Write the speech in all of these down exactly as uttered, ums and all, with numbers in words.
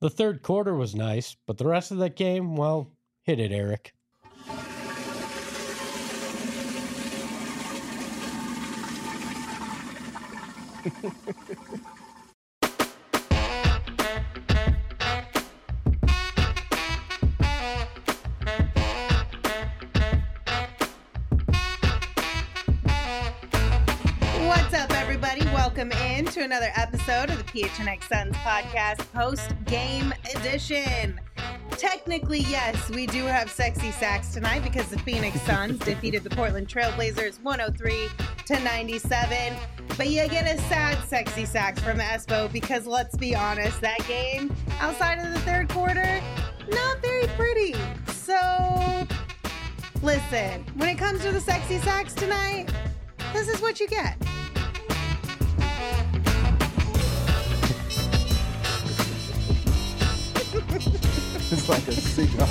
The third quarter was nice, but the rest of that game, well, hit it, Eric. What's up, everybody? Welcome in to another episode of the P H N X Suns podcast post-game edition. Technically, yes, we do have sexy sacks tonight because the Phoenix Suns defeated the Portland Trailblazers one oh three to ninety-seven. But you get a sad sexy sacks from Espo because let's be honest, that game outside of the third quarter, not very pretty. So, listen, when it comes to the sexy sacks tonight, this is what you get. It's like a cigar.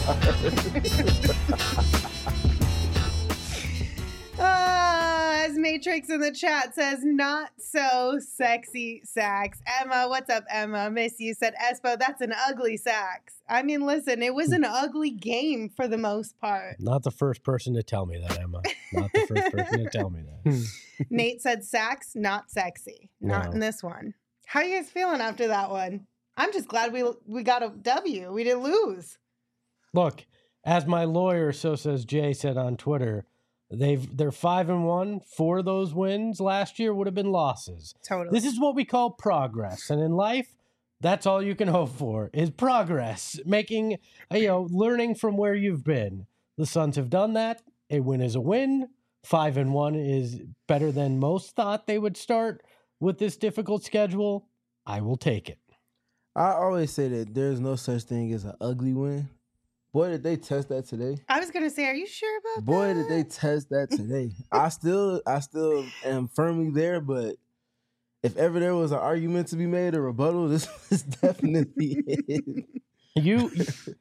uh, as Matrix in the chat says, not so sexy sacks. Emma, what's up, Emma? Miss you said, Espo, that's an ugly sacks. I mean, listen, it was an ugly game for the most part. Not the first person to tell me that, Emma. Not the first person to tell me that. Nate said, sacks, not sexy. Not No. in this one. How are you guys feeling after that one? I'm just glad we we got a W. We didn't lose. Look, as my lawyer, so says Jay, said on Twitter, they've they're five and one. Four of those wins last year would have been losses. Totally. This is what we call progress, and in life, that's all you can hope for is progress. Making you know, learning from where you've been. The Suns have done that. A win is a win. Five and one is better than most thought they would start with this difficult schedule. I will take it. I always say that there's no such thing as an ugly win. Boy, did they test that today. I was going to say, are you sure about Boy, that? did they test that today. I still I still am firmly there, but if ever there was an argument to be made, a rebuttal, this is definitely it. You,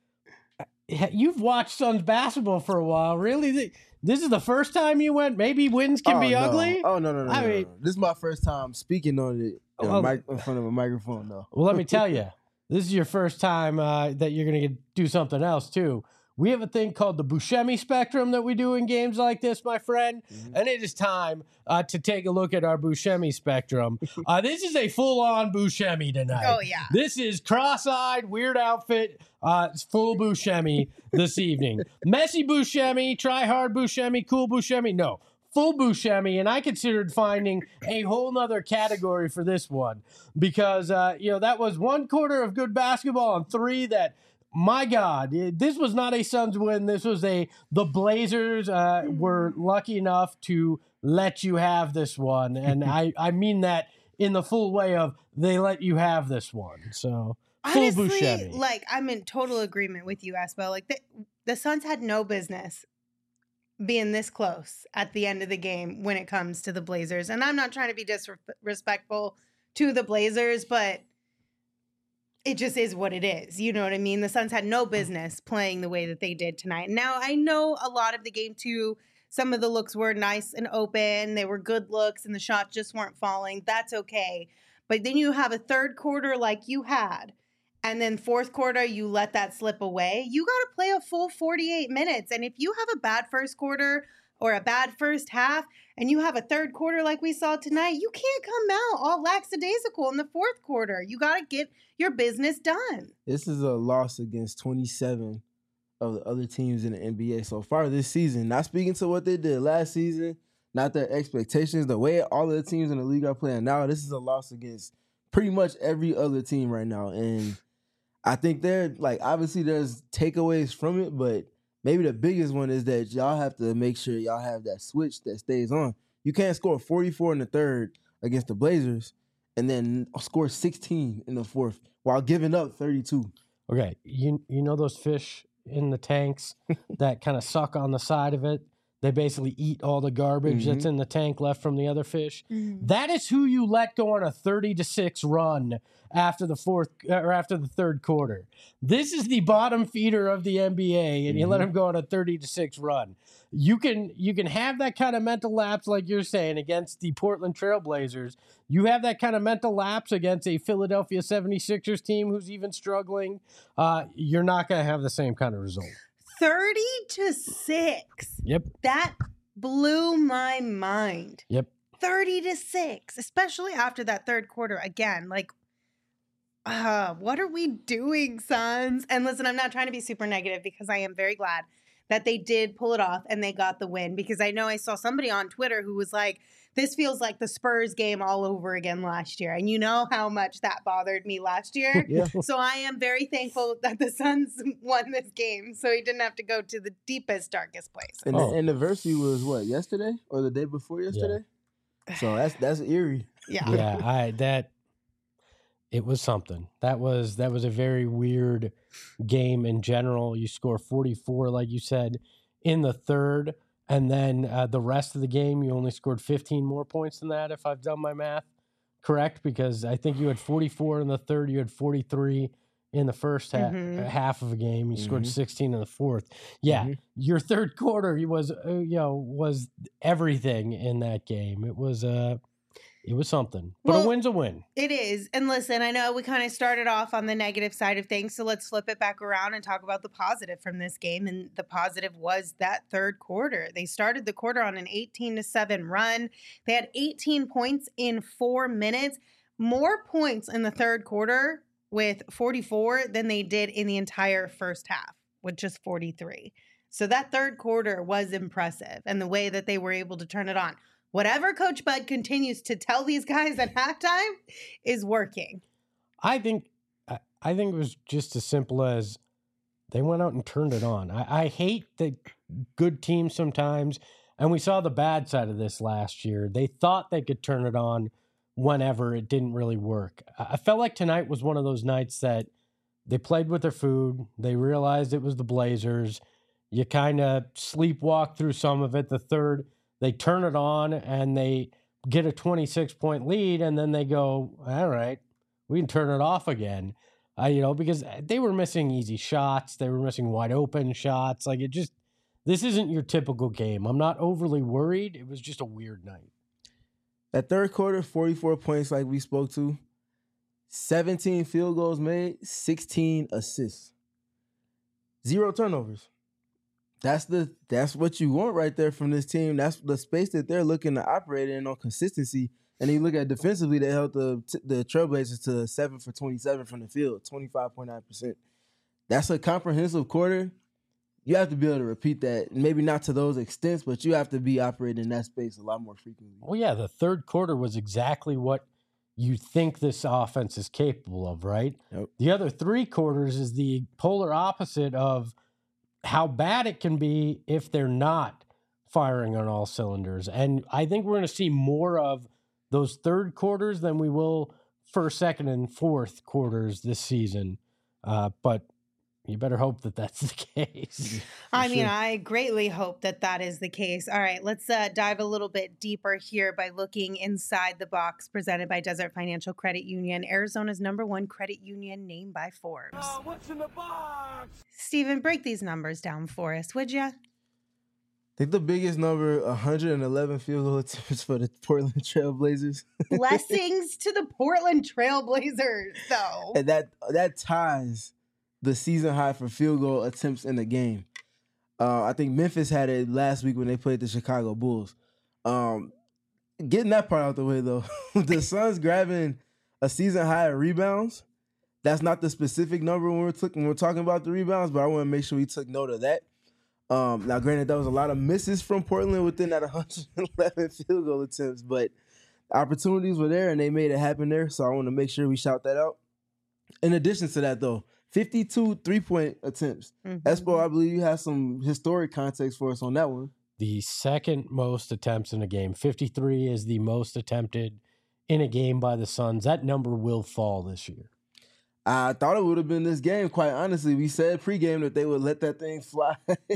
you've watched Suns basketball for a while. Really? This is the first time you went, maybe wins can oh, be no. ugly? Oh, no, no, no, I no, mean- no. This is my first time speaking on it in, a Well- mic- in front of a microphone, though. Well, let me tell you, this is your first time uh, that you're going to do something else, too. We have a thing called the Buscemi spectrum that we do in games like this, my friend. Mhm. And it is time uh, to take a look at our Buscemi spectrum. Uh, this is a full-on Buscemi tonight. Oh, yeah. This is cross-eyed, weird outfit, uh, it's full Buscemi this evening. Messy Buscemi, try hard Buscemi, cool Buscemi. No, full Buscemi. And I considered finding a whole nother category for this one because, uh, you know, that was one quarter of good basketball and three that, my God, it- this was not a Suns win. This was a, the Blazers uh, were lucky enough to let you have this one. And I, I mean that in the full way of they let you have this one. So full Honestly, Buscemi. like, I'm in total agreement with you, Espo. Like, the, the Suns had no business being this close at the end of the game when it comes to the Blazers. And I'm not trying to be disrespectful to the Blazers, but it just is what it is. You know what I mean? The Suns had no business playing the way that they did tonight. Now, I know a lot of the game, too, some of the looks were nice and open. They were good looks, and the shots just weren't falling. That's okay. But then you have a third quarter like you had, and then fourth quarter, you let that slip away. You got to play a full forty-eight minutes. And if you have a bad first quarter or a bad first half, and you have a third quarter like we saw tonight, you can't come out all lackadaisical in the fourth quarter. You got to get your business done. This is a loss against twenty-seven of the other teams in the N B A so far this season. Not speaking to what they did last season, not their expectations, the way all of the teams in the league are playing now, this is a loss against pretty much every other team right now. And I think they're, like, obviously there's takeaways from it, but maybe the biggest one is that y'all have to make sure y'all have that switch that stays on. You can't score forty-four in the third against the Blazers and then score sixteen in the fourth while giving up thirty-two. Okay, you you know those fish in the tanks that kind of suck on the side of it? They basically eat all the garbage Mm-hmm. that's in the tank left from the other fish. Mhm. That is who you let go on a thirty to six run after the fourth or after the third quarter. This is the bottom feeder of the N B A, and you let Mhm. him go on a thirty to six run. You can you can have that kind of mental lapse, like you're saying, against the Portland Trailblazers. You have that kind of mental lapse against a Philadelphia seventy-sixers team who's even struggling. Uh, you're not going to have the same kind of result. thirty to six. Yep. That blew my mind. Yep. thirty to six, especially after that third quarter. Again, like, uh, what are we doing, Suns? And listen, I'm not trying to be super negative because I am very glad that they did pull it off and they got the win, because I know I saw somebody on Twitter who was like, this feels like the Spurs game all over again last year. And you know how much that bothered me last year. Yeah. So I am very thankful that the Suns won this game, so he didn't have to go to the deepest, darkest place. And Oh. the anniversary was what, yesterday or the day before yesterday? So that's that's eerie. Yeah. Yeah, I that it was something. That was that was a very weird game in general. You score forty-four, like you said, in the third, and then uh, the rest of the game you only scored fifteen more points than that, if I've done my math correct, because I think you had forty-four in the third, you had forty-three in the first half, Mhm. half of a game. You scored Mhm. sixteen in the fourth. Yeah, Mhm. your third quarter was uh, you know was everything in that game. It was uh it was something, but Well, a win's a win. It is. And listen, I know we kind of started off on the negative side of things, so let's flip it back around and talk about the positive from this game. And the positive was that third quarter. They started the quarter on an eighteen to seven run. They had eighteen points in four minutes, more points in the third quarter with forty-four than they did in the entire first half with just forty-three. So that third quarter was impressive, and the way that they were able to turn it on. Whatever Coach Bud continues to tell these guys at halftime is working. I think I, I think it was just as simple as they went out and turned it on. I, I hate that good teams sometimes, and we saw the bad side of this last year. They thought they could turn it on whenever. It didn't really work. I, I felt like tonight was one of those nights that they played with their food. They realized it was the Blazers. You kind of sleepwalk through some of it. The third, they turn it on and they get a twenty-six point lead, and then they go, all right, we can turn it off again. Uh, you know, because they were missing easy shots. They were missing wide open shots. Like, it just, this isn't your typical game. I'm not overly worried. It was just a weird night. That third quarter, forty-four points like we spoke to, seventeen field goals made, sixteen assists. Zero turnovers. That's the that's what you want right there from this team. That's the space that they're looking to operate in on consistency. And you look at defensively, they held the the Trailblazers to seven for twenty-seven from the field, twenty-five point nine percent. That's a comprehensive quarter. You have to be able to repeat that. Maybe not to those extents, but you have to be operating in that space a lot more frequently. Well, yeah, the third quarter was exactly what you think this offense is capable of, right? Yep. The other three quarters is the polar opposite of how bad it can be if they're not firing on all cylinders. And I think we're going to see more of those third quarters than we will first, second, and fourth quarters this season. Uh, but you better hope that that's the case. I mean, sure. I greatly hope that that is the case. All right, let's uh, dive a little bit deeper here by looking inside the box presented by Desert Financial Credit Union, Arizona's number one credit union named by Forbes. Oh, what's in the box? Steven, break these numbers down for us, would you? I think the biggest number, one hundred eleven field goal attempts for the Portland Trailblazers. Blessings to the Portland Trailblazers, though. And that that ties the season high for field goal attempts in the game. Uh, I think Memphis had it last week when they played the Chicago Bulls. Um, getting that part out the way, though, the Suns grabbing a season high of rebounds. That's not the specific number when we're, t- when we're talking about the rebounds, but I want to make sure we took note of that. Um, now, granted, there was a lot of misses from Portland within that one hundred eleven field goal attempts, but opportunities were there and they made it happen there. So I want to make sure we shout that out. In addition to that, though, fifty-two three-point attempts. Mhm. Espo, I believe you have some historic context for us on that one. The second most attempts in a game. fifty-three is the most attempted in a game by the Suns. That number will fall this year. I thought it would have been this game, quite honestly. We said pregame that they would let that thing fly.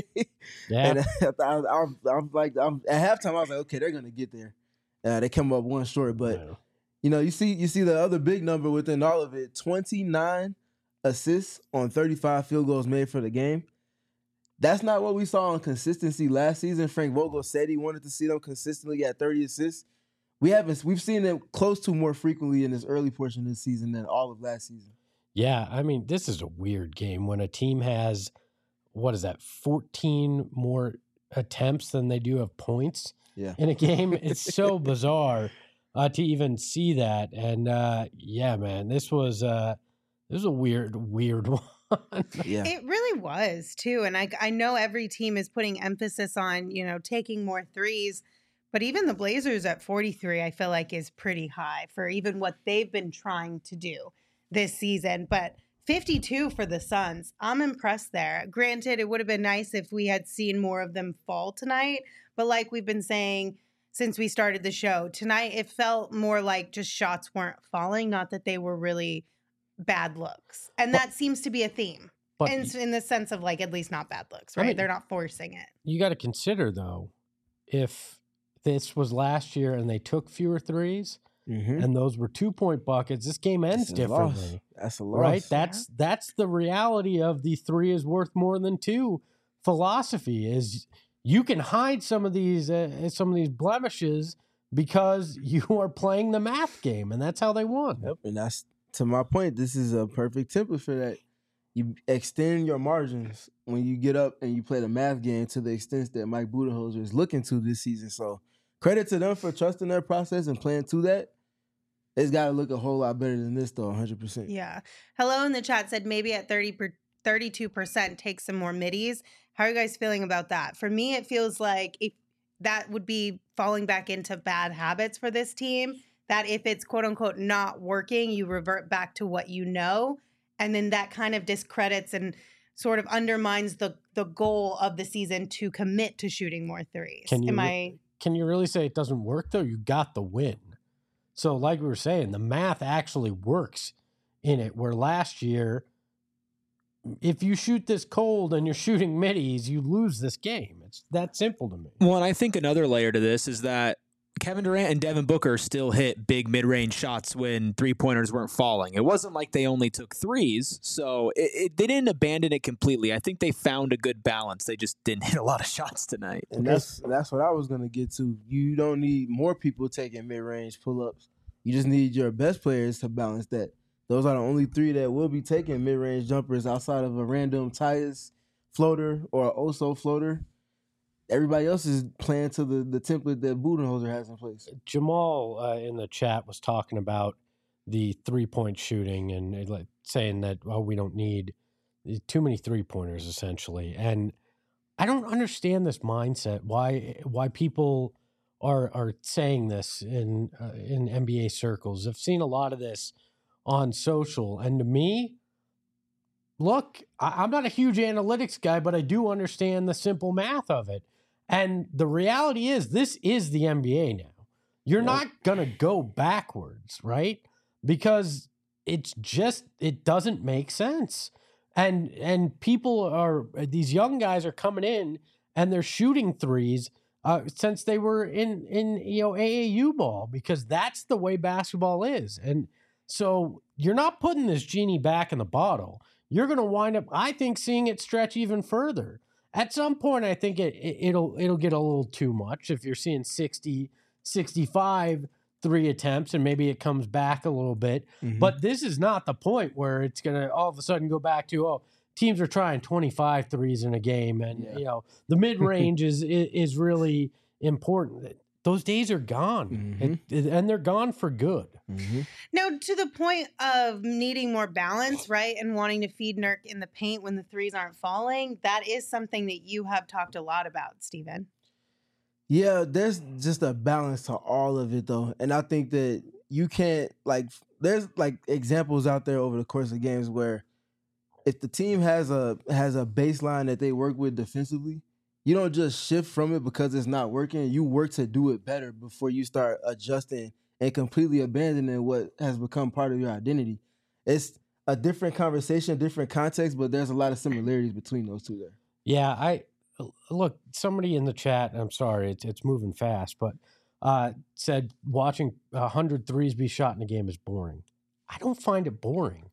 Yeah. And I, I, I, I'm like, I'm, at halftime, I was like, okay, they're going to get there. Uh, they came up one short, but, Yeah. you know, you see you see the other big number within all of it, twenty-nine assists on thirty-five field goals made for the game. That's not what we saw on consistency last season. Frank Vogel said he wanted to see them consistently at thirty assists. We haven't. We've seen them close to more frequently in this early portion of this season than all of last season. Yeah, I mean, this is a weird game when a team has, what is that, fourteen more attempts than they do have points Yeah. in a game. It's so bizarre uh, to even see that. And uh, yeah, man, this was uh, this was a weird, weird one. Yeah. It really was too. And I, I know every team is putting emphasis on, you know, taking more threes, but even the Blazers at forty-three, I feel like is pretty high for even what they've been trying to do this season. But fifty-two for the Suns, I'm impressed there. Granted, it would have been nice if we had seen more of them fall tonight. But like we've been saying since we started the show, tonight it felt more like just shots weren't falling, not that they were really bad looks. And that seems to be a theme. But in, in the sense of like, at least not bad looks, I right? mean- They're not forcing it. you got to consider, though, if this was last year and they took fewer threes Mm-hmm. and those were two-point buckets, this game ends That's a loss. differently. That's a loss. Right? That's that's the reality of the three is worth more than two philosophy is you can hide some of these uh, some of these blemishes because you are playing the math game, and that's how they won. Yep, and that's to my point. This is a perfect template for that. You extend your margins when you get up and you play the math game to the extent that Mike Budenholzer is looking to this season. So credit to them for trusting their process and playing to that. It's got to look a whole lot better than this, though, one hundred percent. Yeah. Hello in the chat said maybe at thirty per, thirty-two percent take some more middies. How are you guys feeling about that? For me, it feels like if that would be falling back into bad habits for this team, that if it's quote unquote not working, you revert back to what you know. And then that kind of discredits and sort of undermines the the goal of the season to commit to shooting more threes. Can you Am re- I Can you really say it doesn't work, though? You got the win. So like we were saying, the math actually works in it, where last year, if you shoot this cold and you're shooting middies, you lose this game. It's that simple to me. Well, and I think another layer to this is that Kevin Durant and Devin Booker still hit big mid-range shots when three-pointers weren't falling. It wasn't like they only took threes, so it, it, they didn't abandon it completely. I think they found a good balance. They just didn't hit a lot of shots tonight. And that's that's what I was gonna get to. You don't need more people taking mid range pull ups. You just need your best players to balance that. Those are the only three that will be taking mid range jumpers outside of a random Tyus floater or an Oso floater. Everybody else is playing to the, the template that Budenholzer has in place. Jamal uh, in the chat was talking about the three-point shooting and uh, like saying that, oh, we don't need too many three-pointers, essentially. And I don't understand this mindset, why why people are are saying this in uh, in N B A circles. I've seen a lot of this on social. And to me, look, I, I'm not a huge analytics guy, but I do understand the simple math of it. And the reality is, this is the N B A now. You're Yep. not going to go backwards, right? Because it's just, it doesn't make sense. And and people are, these young guys are coming in and they're shooting threes uh, since they were in, in, you know, A A U ball, because that's the way basketball is. And so you're not putting this genie back in the bottle. You're going to wind up, I think, seeing it stretch even further. At some point, I think it, it it'll it'll get a little too much if you're seeing sixty, sixty-five three attempts, and maybe it comes back a little bit. Mhm. But this is not the point where it's going to all of a sudden go back to, oh, teams are trying twenty-five threes in a game, and Yeah. you know the mid range is, is is really important. Those days are gone, Mhm. It- it- and they're gone for good. Mm-hmm. Now, to the point of needing more balance, right, and wanting to feed Nurk in the paint when the threes aren't falling, that is something that you have talked a lot about, Steven. Yeah, there's just a balance to all of it, though. And I think that you can't, like, there's, like, examples out there over the course of games where if the team has a has a baseline that they work with defensively, you don't just shift from it because it's not working. You work to do it better before you start adjusting and completely abandoning what has become part of your identity. It's a different conversation, different context, but there's a lot of similarities between those two there. Yeah, I look, somebody in the chat, I'm sorry, it's it's moving fast, but uh, said watching one hundred threes be shot in a game is boring. I don't find it boring.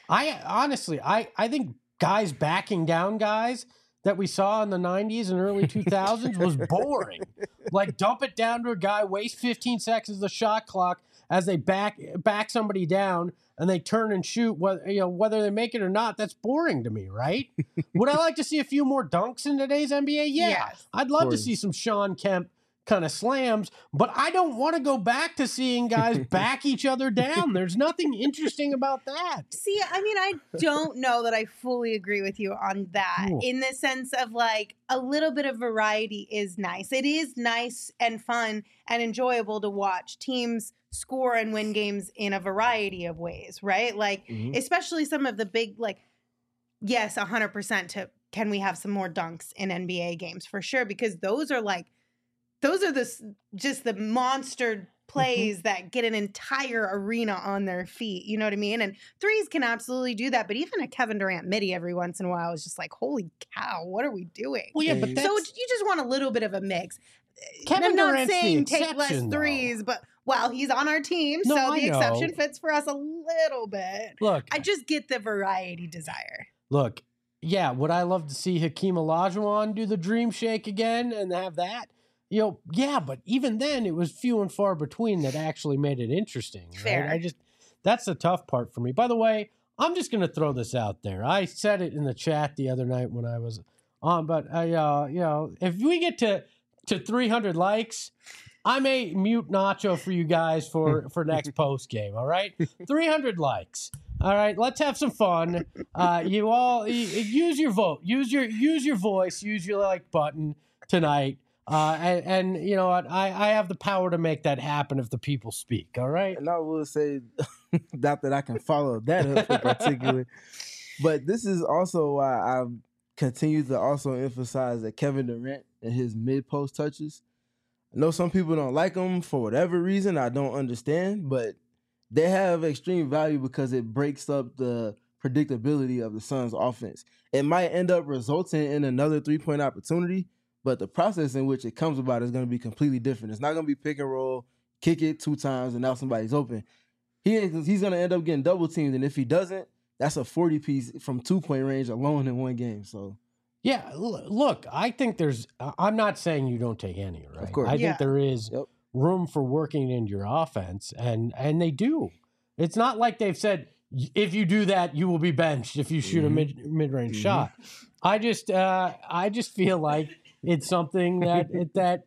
I honestly, I, I think guys backing down guys that we saw in the nineties and early two thousands was boring. Like dump it down to a guy, waste fifteen seconds of the shot clock as they back back somebody down and they turn and shoot. Whether you know whether they make it or not, that's boring to me, right? Would I like to see a few more dunks in today's N B A? Yeah, Yes. I'd love to course. see some Sean Kemp kind of slams, but I don't want to go back to seeing guys back each other down. There's nothing interesting about that. See, I mean, I don't know that I fully agree with you on that Ooh. in the sense of like a little bit of variety is nice. It is nice and fun and enjoyable to watch teams score and win games in a variety of ways, right? Like, Mhm. especially some of the big, like, yes, one hundred percent to can we have some more dunks in N B A games for sure? Because those are like, those are the s- just the monster plays that get an entire arena on their feet. You know what I mean? And threes can absolutely do that. But even a Kevin Durant midi every once in a while is just like, holy cow, what are we doing? Well, yeah, but So that's, So you just want a little bit of a mix. Kevin I'm not Durant's the saying take less exception, though. threes, but well, he's on our team, No, so I the exception know. fits for us a little bit. look, I just get the variety desire. look, yeah, would I love to see Hakeem Olajuwon do the dream shake again and have that? You know, yeah, but even then it was few and far between that actually made it interesting. Right? Fair. I just that's the tough part for me. By the way, I'm just going to throw this out there. I said it in the chat the other night when I was on, but I, uh, you know, if we get to to three hundred likes, I may mute Nacho for you guys for for next post game. All right, three hundred likes. All right, let's have some fun. Uh, you all y- use your vote, use your use your voice, use your like button tonight. Uh, and, and you know what? I, I have the power to make that happen if the people speak. All right. And I will say, not that I can follow that up in particular, but this is also why I continue to also emphasize that Kevin Durant and his mid-post touches. I know some people don't like them for whatever reason. I don't understand, but they have extreme value because it breaks up the predictability of the Suns' offense. It might end up resulting in another three-point opportunity, but the process in which it comes about is going to be completely different. It's not going to be pick and roll, kick it two times, and now somebody's open. He is, he's going to end up getting double teamed, and if he doesn't, that's a forty piece from two-point range alone in one game. So, Yeah. l- Look, I think there's. I- I'm not saying you don't take any. Right. course. I Yeah. think there is Yep. room for working into your offense, and and they do. It's not like they've said "Y- if you do that, you will be benched if you shoot Mhm. a mid mid range Mhm. shot. I just uh, I just feel like it's something that it, that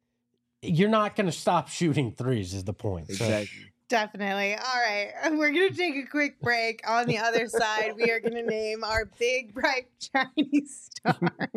you're not going to stop shooting threes is the point. So, exactly. Definitely. All right. We're going to take a quick break. On the other side, we are going to name our big, bright, shiny star.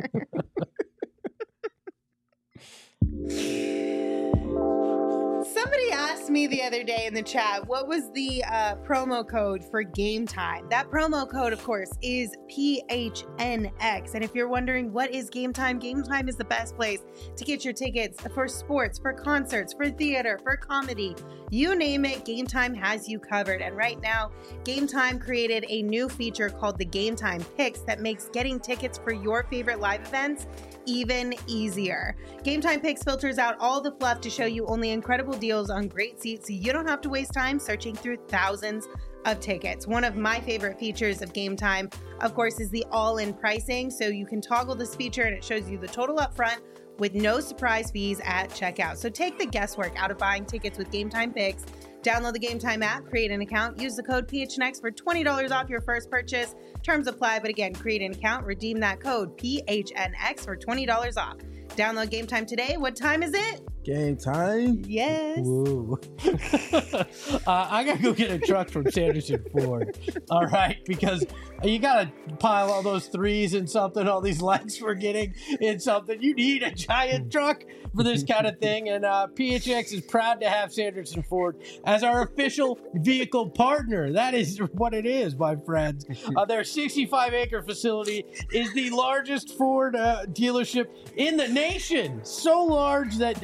Somebody asked me the other day in the chat, what was the uh, promo code for Game Time? That promo code, of course, is P H N X. And if you're wondering what is Game Time, Game Time is the best place to get your tickets for sports, for concerts, for theater, for comedy. You name it, Game Time has you covered. And right now, Game Time created a new feature called the Game Time Picks that makes getting tickets for your favorite live events even easier. Game Time Picks filters out all the fluff to show you only incredible deals on great seats, so you don't have to waste time searching through thousands of tickets. One of my favorite features of Game Time, of course, is the all-in pricing. So you can toggle this feature and it shows you the total upfront with no surprise fees at checkout. So take the guesswork out of buying tickets with Game Time Picks. Download the Game Time app, create an account, use the code P H N X for twenty dollars off your first purchase. Terms apply, but again, create an account, redeem that code P H N X for twenty dollars off. Download Game Time today. What time is it? Game time. Yes. Woo. uh, I gotta go get a truck from Sanderson Ford. All right, because you gotta pile all those threes in something, all these likes we're getting in something. You need a giant truck for this kind of thing, and uh, P H X is proud to have Sanderson Ford as our official vehicle partner. That is what it is, my friends. Uh, their sixty-five acre facility is the largest Ford uh, dealership in the nation. So large that uh,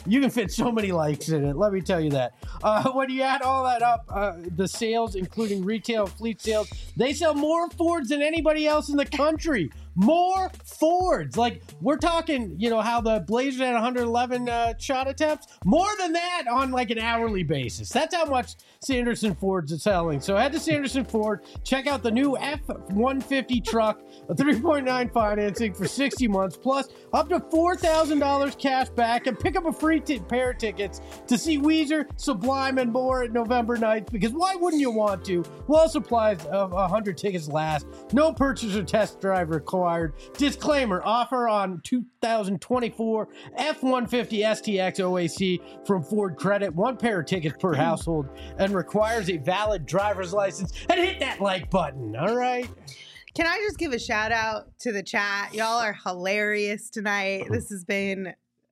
You can fit so many likes in it. Let me tell you that. Uh, when you add all that up, uh, the sales, including retail fleet sales, they sell more Fords than anybody else in the country. More Fords. Like, we're talking, you know, how the Blazers had one hundred eleven uh, shot attempts. More than that on like an hourly basis. That's how much Sanderson Fords are selling. So head to Sanderson Ford, check out the new F one fifty truck, a three point nine financing for sixty months, plus up to four thousand dollars cash back, and pick up a free t- pair of tickets to see Weezer, Sublime, and more at November ninth, because why wouldn't you want to? While supplies of one hundred tickets last. No purchase or test drive required. Disclaimer, offer on two thousand twenty-four F one fifty S T X O A C from Ford Credit. One pair of tickets per household and requires a valid driver's license. And hit that like button, all right? Can I just give a shout out to the chat? Y'all are hilarious tonight. This has been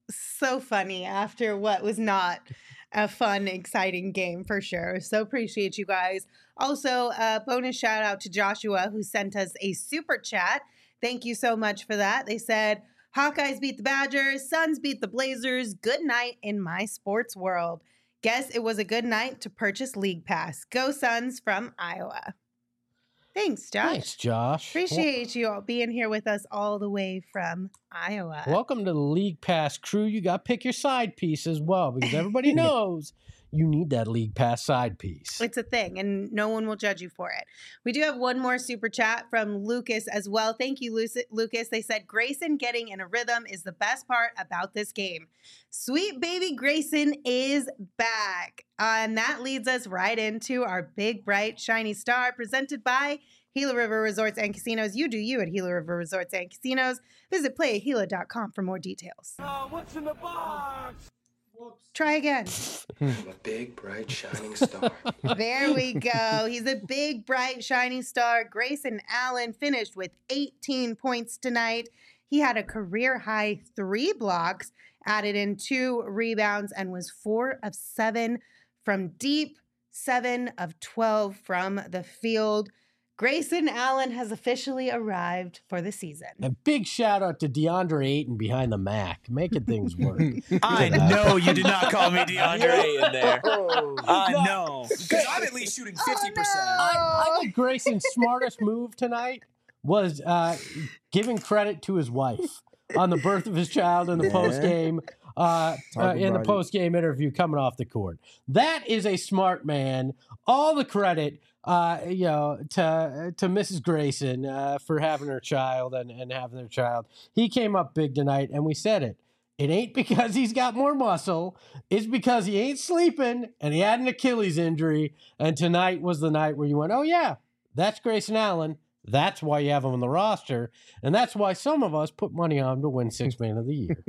so funny after what was not a fun, exciting game for sure. So appreciate you guys. Also, a bonus shout out to Joshua, who sent us a super chat. Thank you so much for that. They said, Hawkeyes beat the Badgers, Suns beat the Blazers. Good night in my sports world. Guess it was a good night to purchase League Pass. Go Suns from Iowa. Thanks, Josh. Thanks, Josh. Appreciate you all being here with us all the way from Iowa. Welcome to the League Pass crew. You got to pick your side piece as well, because everybody knows you need that League Pass side piece. It's a thing, and no one will judge you for it. We do have one more super chat from Lucas as well. Thank you, Lucas. They said, Grayson getting in a rhythm is the best part about this game. Sweet baby Grayson is back. Uh, and that leads us right into our big, bright, shiny star presented by Gila River Resorts and Casinos. You do you at Gila River Resorts and Casinos. Visit play at gila dot com for more details. Uh, what's in the box? Try again. I'm a big, bright, shining star. There we go. He's a big, bright, shining star. Grayson Allen finished with eighteen points tonight. He had a career-high three blocks, added in two rebounds, and was four of seven from deep, seven of twelve from the field. Grayson Allen has officially arrived for the season. A big shout out to DeAndre Ayton behind the Mac, making things work. I know you did not call me DeAndre Ayton there. I know. Because I'm at least shooting fifty percent. Oh, no. I, I think Grayson's smartest move tonight was uh, giving credit to his wife on the birth of his child in the Yeah. post game. Uh, uh, in the about it. post game interview coming off the court. That is a smart man. All the credit, uh, you know, to to Missus Grayson uh, for having her child and, and having their child. He came up big tonight, and we said it. It ain't because he's got more muscle. It's because he ain't sleeping, and he had an Achilles injury. And tonight was the night where you went, oh, yeah, that's Grayson Allen. That's why you have him on the roster. And that's why some of us put money on him to win Sixth Man of the Year.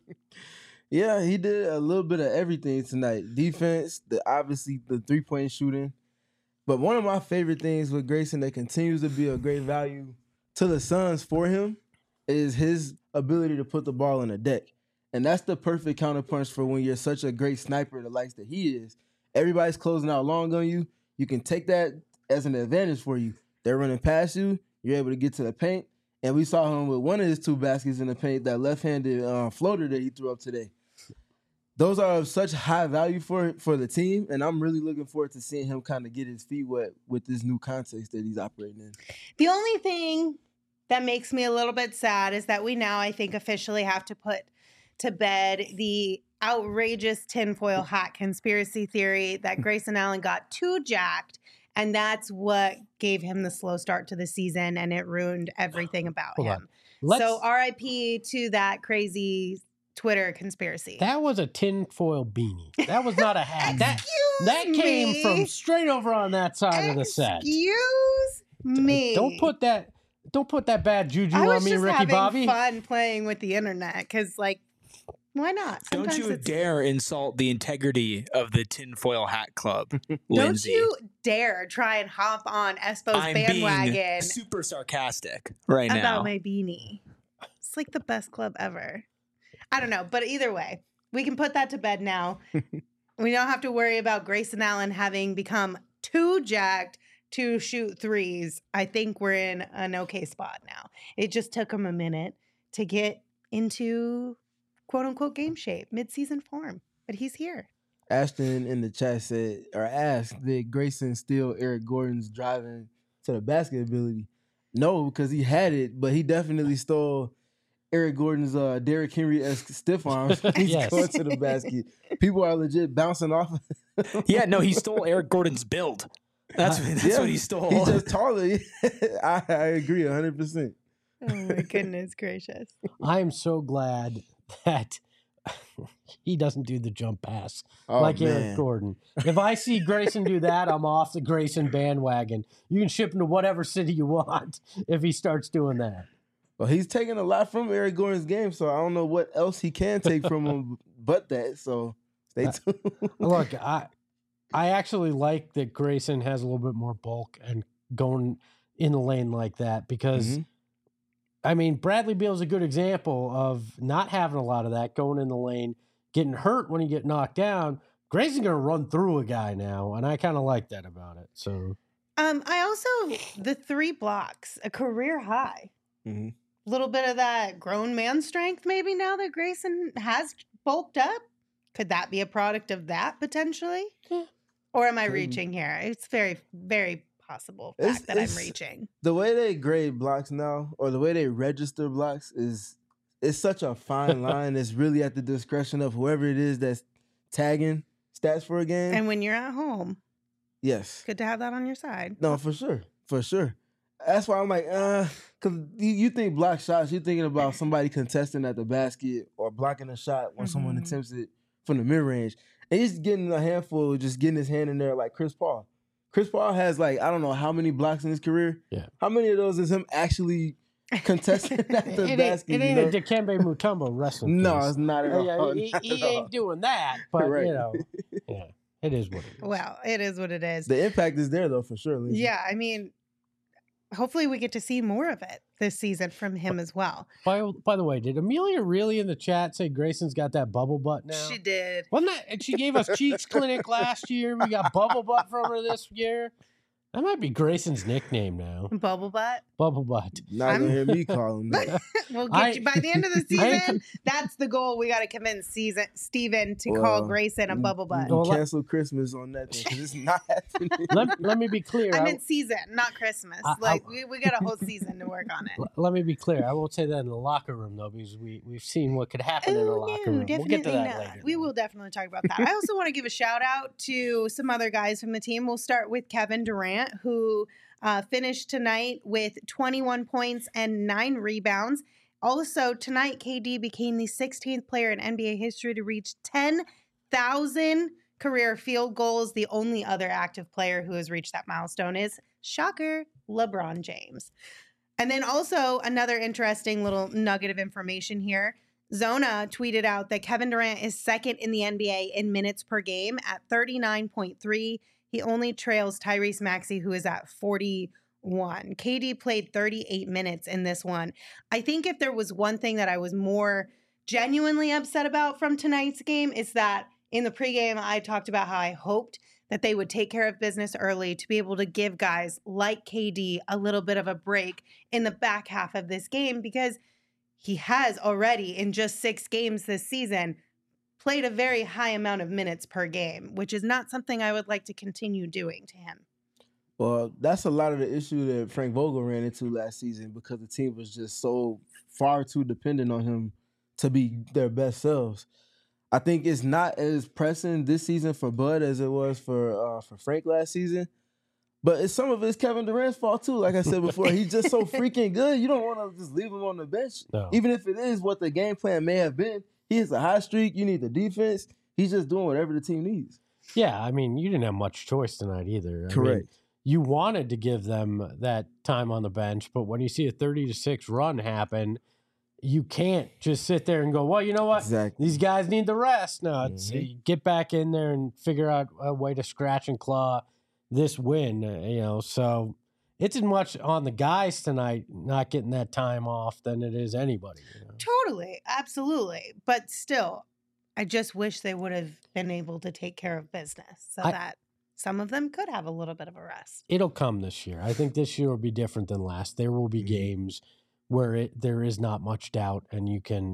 Yeah, he did a little bit of everything tonight. Defense, the obviously the three-point shooting. But one of my favorite things with Grayson that continues to be a great value to the Suns for him is his ability to put the ball on the deck. And that's the perfect counterpunch for when you're such a great sniper, the likes that he is. Everybody's closing out long on you. You can take that as an advantage for you. They're running past you. You're able to get to the paint. And we saw him with one of his two baskets in the paint, that left-handed uh, floater that he threw up today. Those are of such high value for for the team, and I'm really looking forward to seeing him kind of get his feet wet with this new context that he's operating in. The only thing that makes me a little bit sad is that we now, I think, officially have to put to bed the outrageous tinfoil hat conspiracy theory that Grayson Allen got too jacked, and that's what gave him the slow start to the season, and it ruined everything about Hold him. on. Let's, So R I P to that crazy Twitter conspiracy. that was a tinfoil beanie. That was not a hat. that Excuse that came me. from straight over on that side of the set. Excuse me. Don't put that. Don't put that bad juju I was on me, just Ricky having Bobby. fun playing with the internet because, like, why not? Don't Sometimes you it's- dare insult the integrity of the tinfoil hat club, Don't Lindsay. you dare try and hop on Espo's I'm bandwagon being super sarcastic right about now. my beanie. It's like the best club ever. I don't know, but either way, we can put that to bed now. We don't have to worry about Grayson Allen having become too jacked to shoot threes. I think we're in an okay spot now. It just took him a minute to get into quote unquote game shape, mid-season form, but he's here. Ashton in the chat said or asked, did Grayson steal Eric Gordon's driving to the basket ability? No, because he had it, but he definitely stole Eric Gordon's uh, Derrick Henry-esque stiff arms. He's Yes. going to the basket. People are legit bouncing off. Yeah, no, he stole Eric Gordon's build. That's that's Yeah, what he stole. He's just taller. I, I agree one hundred percent. Oh my goodness gracious. I am so glad that he doesn't do the jump pass Oh, like man. Eric Gordon. If I see Grayson do that, I'm off the Grayson bandwagon. You can ship him to whatever city you want if he starts doing that. Well, he's taking a lot from Eric Gordon's game, so I don't know what else he can take from him but that. So stay Uh, tuned. Look, I I actually like that Grayson has a little bit more bulk and going in the lane like that because, Mhm. I mean, Bradley Beal's a good example of not having a lot of that, going in the lane, getting hurt when you get knocked down. Grayson's going to run through a guy now, and I kind of like that about it. So, Um, I also the three blocks, a career high. Mhm. A little bit of that grown man strength, maybe now that Grayson has bulked up. Could that be a product of that potentially? Yeah. Or am I Could be. reaching here? It's very, very possible It's- fact that I'm it's- reaching. The way they grade blocks now, or the way they register blocks, is it's such a fine line. It's really at the discretion of whoever it is that's tagging stats for a game. And when you're at home, yes. good to have that on your side. No, for sure. For sure. That's why I'm like, uh, because you, you think block shots, you're thinking about somebody contesting at the basket or blocking a shot when someone Mhm. attempts it from the mid range. And he's getting a handful, just getting his hand in there like Chris Paul. Chris Paul has like, I don't know how many blocks in his career. Yeah. How many of those is him actually contesting at the it ain't, basket? it you ain't know? a Dikembe Mutombo wrestling. No, piece. it's not at Uh, all. yeah, he, Not he at all. ain't doing that, but Right. you know, yeah, it is what it is. Well, it is what it is. The impact is there though, for sure. Lindsay. Yeah, I mean, hopefully we get to see more of it this season from him as well. By by the way, did Amelia really in the chat say Grayson's got that bubble butt now? She did. Wasn't that? And she gave us Cheeks Clinic last year. We got bubble butt from her this year. That might be Grayson's nickname now. Bubble butt. Bubble butt. Not I'm- gonna hear me call him that. We'll get I- you by the end of the I ain't season. That's the goal. We got to convince season Steven to call Well, Grayson a You- bubble butt. You Well, let- cancel Christmas on that because it's not happening. Let, let me be clear. I I- meant season, not Christmas. I- I- like we, we got a whole season to work on it. l- let me be clear. I won't say that in the locker room though, because we we've seen what could happen in the Oh, locker no, room. We'll get to definitely that not. later. We though. will definitely talk about that. I also want to give a shout out to some other guys from the team. We'll start with Kevin Durant, who uh, finished tonight with twenty-one points and nine rebounds. Also, tonight, K D became the sixteenth player in N B A history to reach ten thousand career field goals. The only other active player who has reached that milestone is, shocker, LeBron James. And then also another interesting little nugget of information here. Zona tweeted out that Kevin Durant is second in the N B A in minutes per game at thirty-nine point three. He only trails Tyrese Maxey, who is at forty-one. K D played thirty-eight minutes in this one. I think if there was one thing that I was more genuinely upset about from tonight's game, is that in the pregame, I talked about how I hoped that they would take care of business early to be able to give guys like K D a little bit of a break in the back half of this game, because he has already, in just six games this season, played a very high amount of minutes per game, which is not something I would like to continue doing to him. Well, that's a lot of the issue that Frank Vogel ran into last season because the team was just so far too dependent on him to be their best selves. I think it's not as pressing this season for Bud as it was for uh, for Frank last season. But it's some of it's Kevin Durant's fault too. Like I said before, he's just so freaking good. You don't want to just leave him on the bench. No. Even if it is what the game plan may have been. He has a high streak. You need the defense. He's just doing whatever the team needs. Yeah, I mean, you didn't have much choice tonight either. I Correct. mean, you wanted to give them that time on the bench, but when you see a thirty to six run happen, you can't just sit there and go, well, you know what? Exactly. These guys need the rest. No, it's Mhm. you get back in there and figure out a way to scratch and claw this win, uh, you know. So it's as much on the guys tonight not getting that time off than it is anybody. You know? Totally, absolutely. But still, I just wish they would have been able to take care of business so I- that some of them could have a little bit of a rest. It'll come this year. I think this year will be different than last. There will be Mhm. games where it there is not much doubt, and you can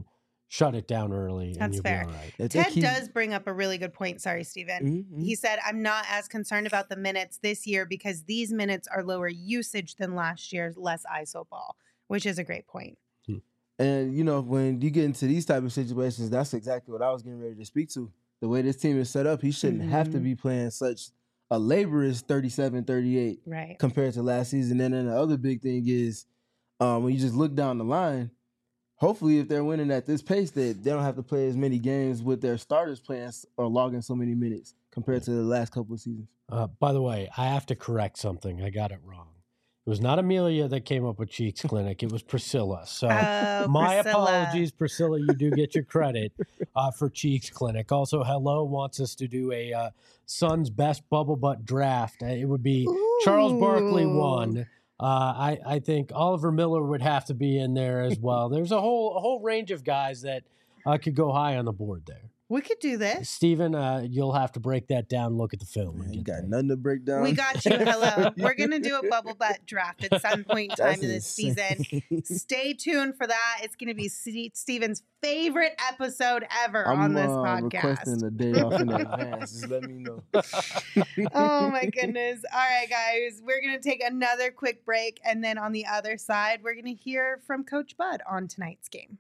shut it down early, and That's you'll fair. be all right. If they Ted keep- does bring up a really good point. Sorry, Steven. Mhm, mhm. He said, I'm not as concerned about the minutes this year because these minutes are lower usage than last year's less I S O ball, which is a great point. And, you know, when you get into these type of situations, that's exactly what I was getting ready to speak to. The way this team is set up, he shouldn't have to Mhm. be playing such a laborious thirty-seven thirty-eight Right. compared to last season. And then the other big thing is um, when you just look down the line, hopefully if they're winning at this pace, that they don't have to play as many games with their starters playing s- or logging so many minutes compared to the last couple of seasons. Uh, by the way, I have to correct something. I got it wrong. It was not Amelia that came up with Cheeks Clinic. It was Priscilla. So Oh, my Priscilla. apologies, Priscilla. You do get your credit uh, for Cheeks Clinic. Also, Hello wants us to do a uh, Suns best bubble butt draft. Uh, It would be Charles Barkley Ooh. one. Uh, I, I think Oliver Miller would have to be in there as well. There's a whole a whole range of guys that uh, could go high on the board there. We could do this. Steven, uh, you'll have to break that down, look at the film. Man, and you get got that. nothing to break down. We got you. Hello. We're going to do a bubble butt draft at some point in time That's in this insane. season. Stay tuned for that. It's going to be Ste- Steven's favorite episode ever I'm on this uh, podcast. requesting a day off in advance. Just let me know. Oh my goodness. All right, guys. We're going to take another quick break. And then on the other side, we're going to hear from Coach Bud on tonight's game.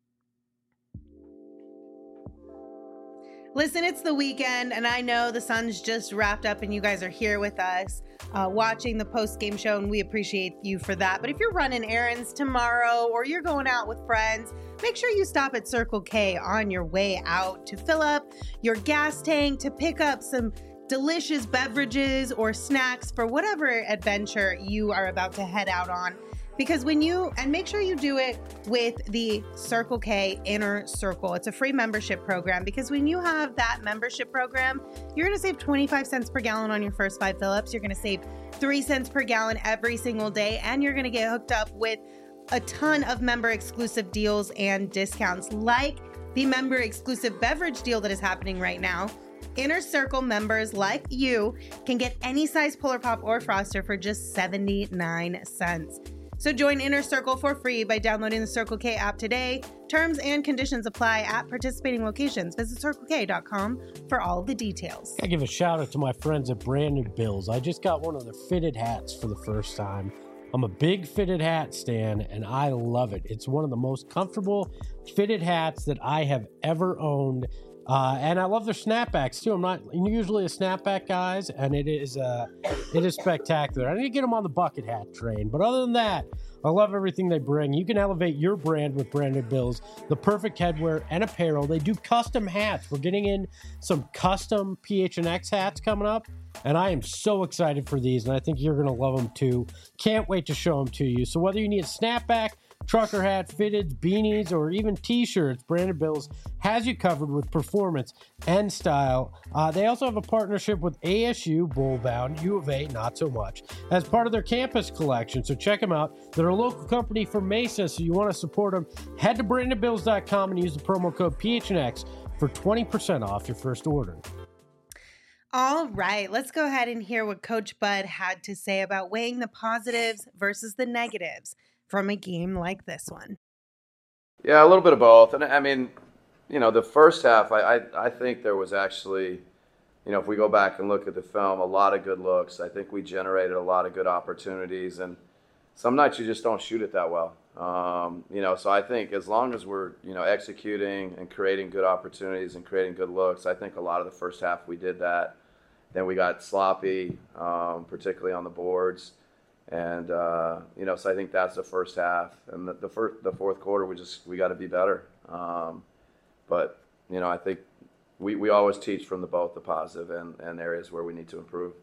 Listen, it's the weekend, and I know the Suns just wrapped up, and you guys are here with us uh, watching the post-game show, and we appreciate you for that. But if you're running errands tomorrow or you're going out with friends, make sure you stop at Circle K on your way out to fill up your gas tank, to pick up some delicious beverages or snacks for whatever adventure you are about to head out on. Because when you, and make sure you do it with the Circle K Inner Circle. It's a free membership program, because when you have that membership program, you're going to save twenty-five cents per gallon on your first five fill-ups. You're going to save three cents per gallon every single day, and you're going to get hooked up with a ton of member exclusive deals and discounts, like the member exclusive beverage deal that is happening right now. Inner Circle members like you can get any size Polar Pop or Froster for just seventy-nine cents. So join Inner Circle for free by downloading the Circle K app today. Terms and conditions apply at participating locations. Visit circle k dot com for all the details. I give a shout out to my friends at Branded Bills. I just got one of their fitted hats for the first time. I'm a big fitted hat stan, and I love it. It's one of the most comfortable fitted hats that I have ever owned. Uh, and I love their snapbacks too. I'm not usually a snapback guys, and it is uh, it is spectacular. I need to get them on the bucket hat train, but other than that, I love everything they bring. You can elevate your brand with Branded Bills, the perfect headwear and apparel. They do custom hats. We're getting in some custom P H N X hats coming up, and I am so excited for these, and I think you're going to love them too. Can't wait to show them to you. So whether you need a snapback, trucker hat, fitteds, beanies, or even t-shirts, Branded Bills has you covered with performance and style. Uh, they also have a partnership with A S U, Bullbound, U of A, not so much, as part of their campus collection. So check them out. They're a local company from Mesa, so you want to support them. Head to branded bills dot com and use the promo code P H N X for twenty percent off your first order. All right, let's go ahead and hear what Coach Bud had to say about weighing the positives versus the negatives from a game like this one. Yeah, a little bit of both. And I mean, you know, the first half, I, I, I think there was actually, you know, if we go back and look at the film, a lot of good looks. I think we generated a lot of good opportunities. And some nights you just don't shoot it that well. Um, you know, so I think as long as we're, you know, executing and creating good opportunities and creating good looks, I think a lot of the first half we did that. Then we got sloppy, um, particularly on the boards. And, uh, you know, so I think that's the first half. And the, the, first, the fourth quarter, we just, we got to be better. Um, but, you know, I think we, we always teach from the both the positive and, and areas where we need to improve.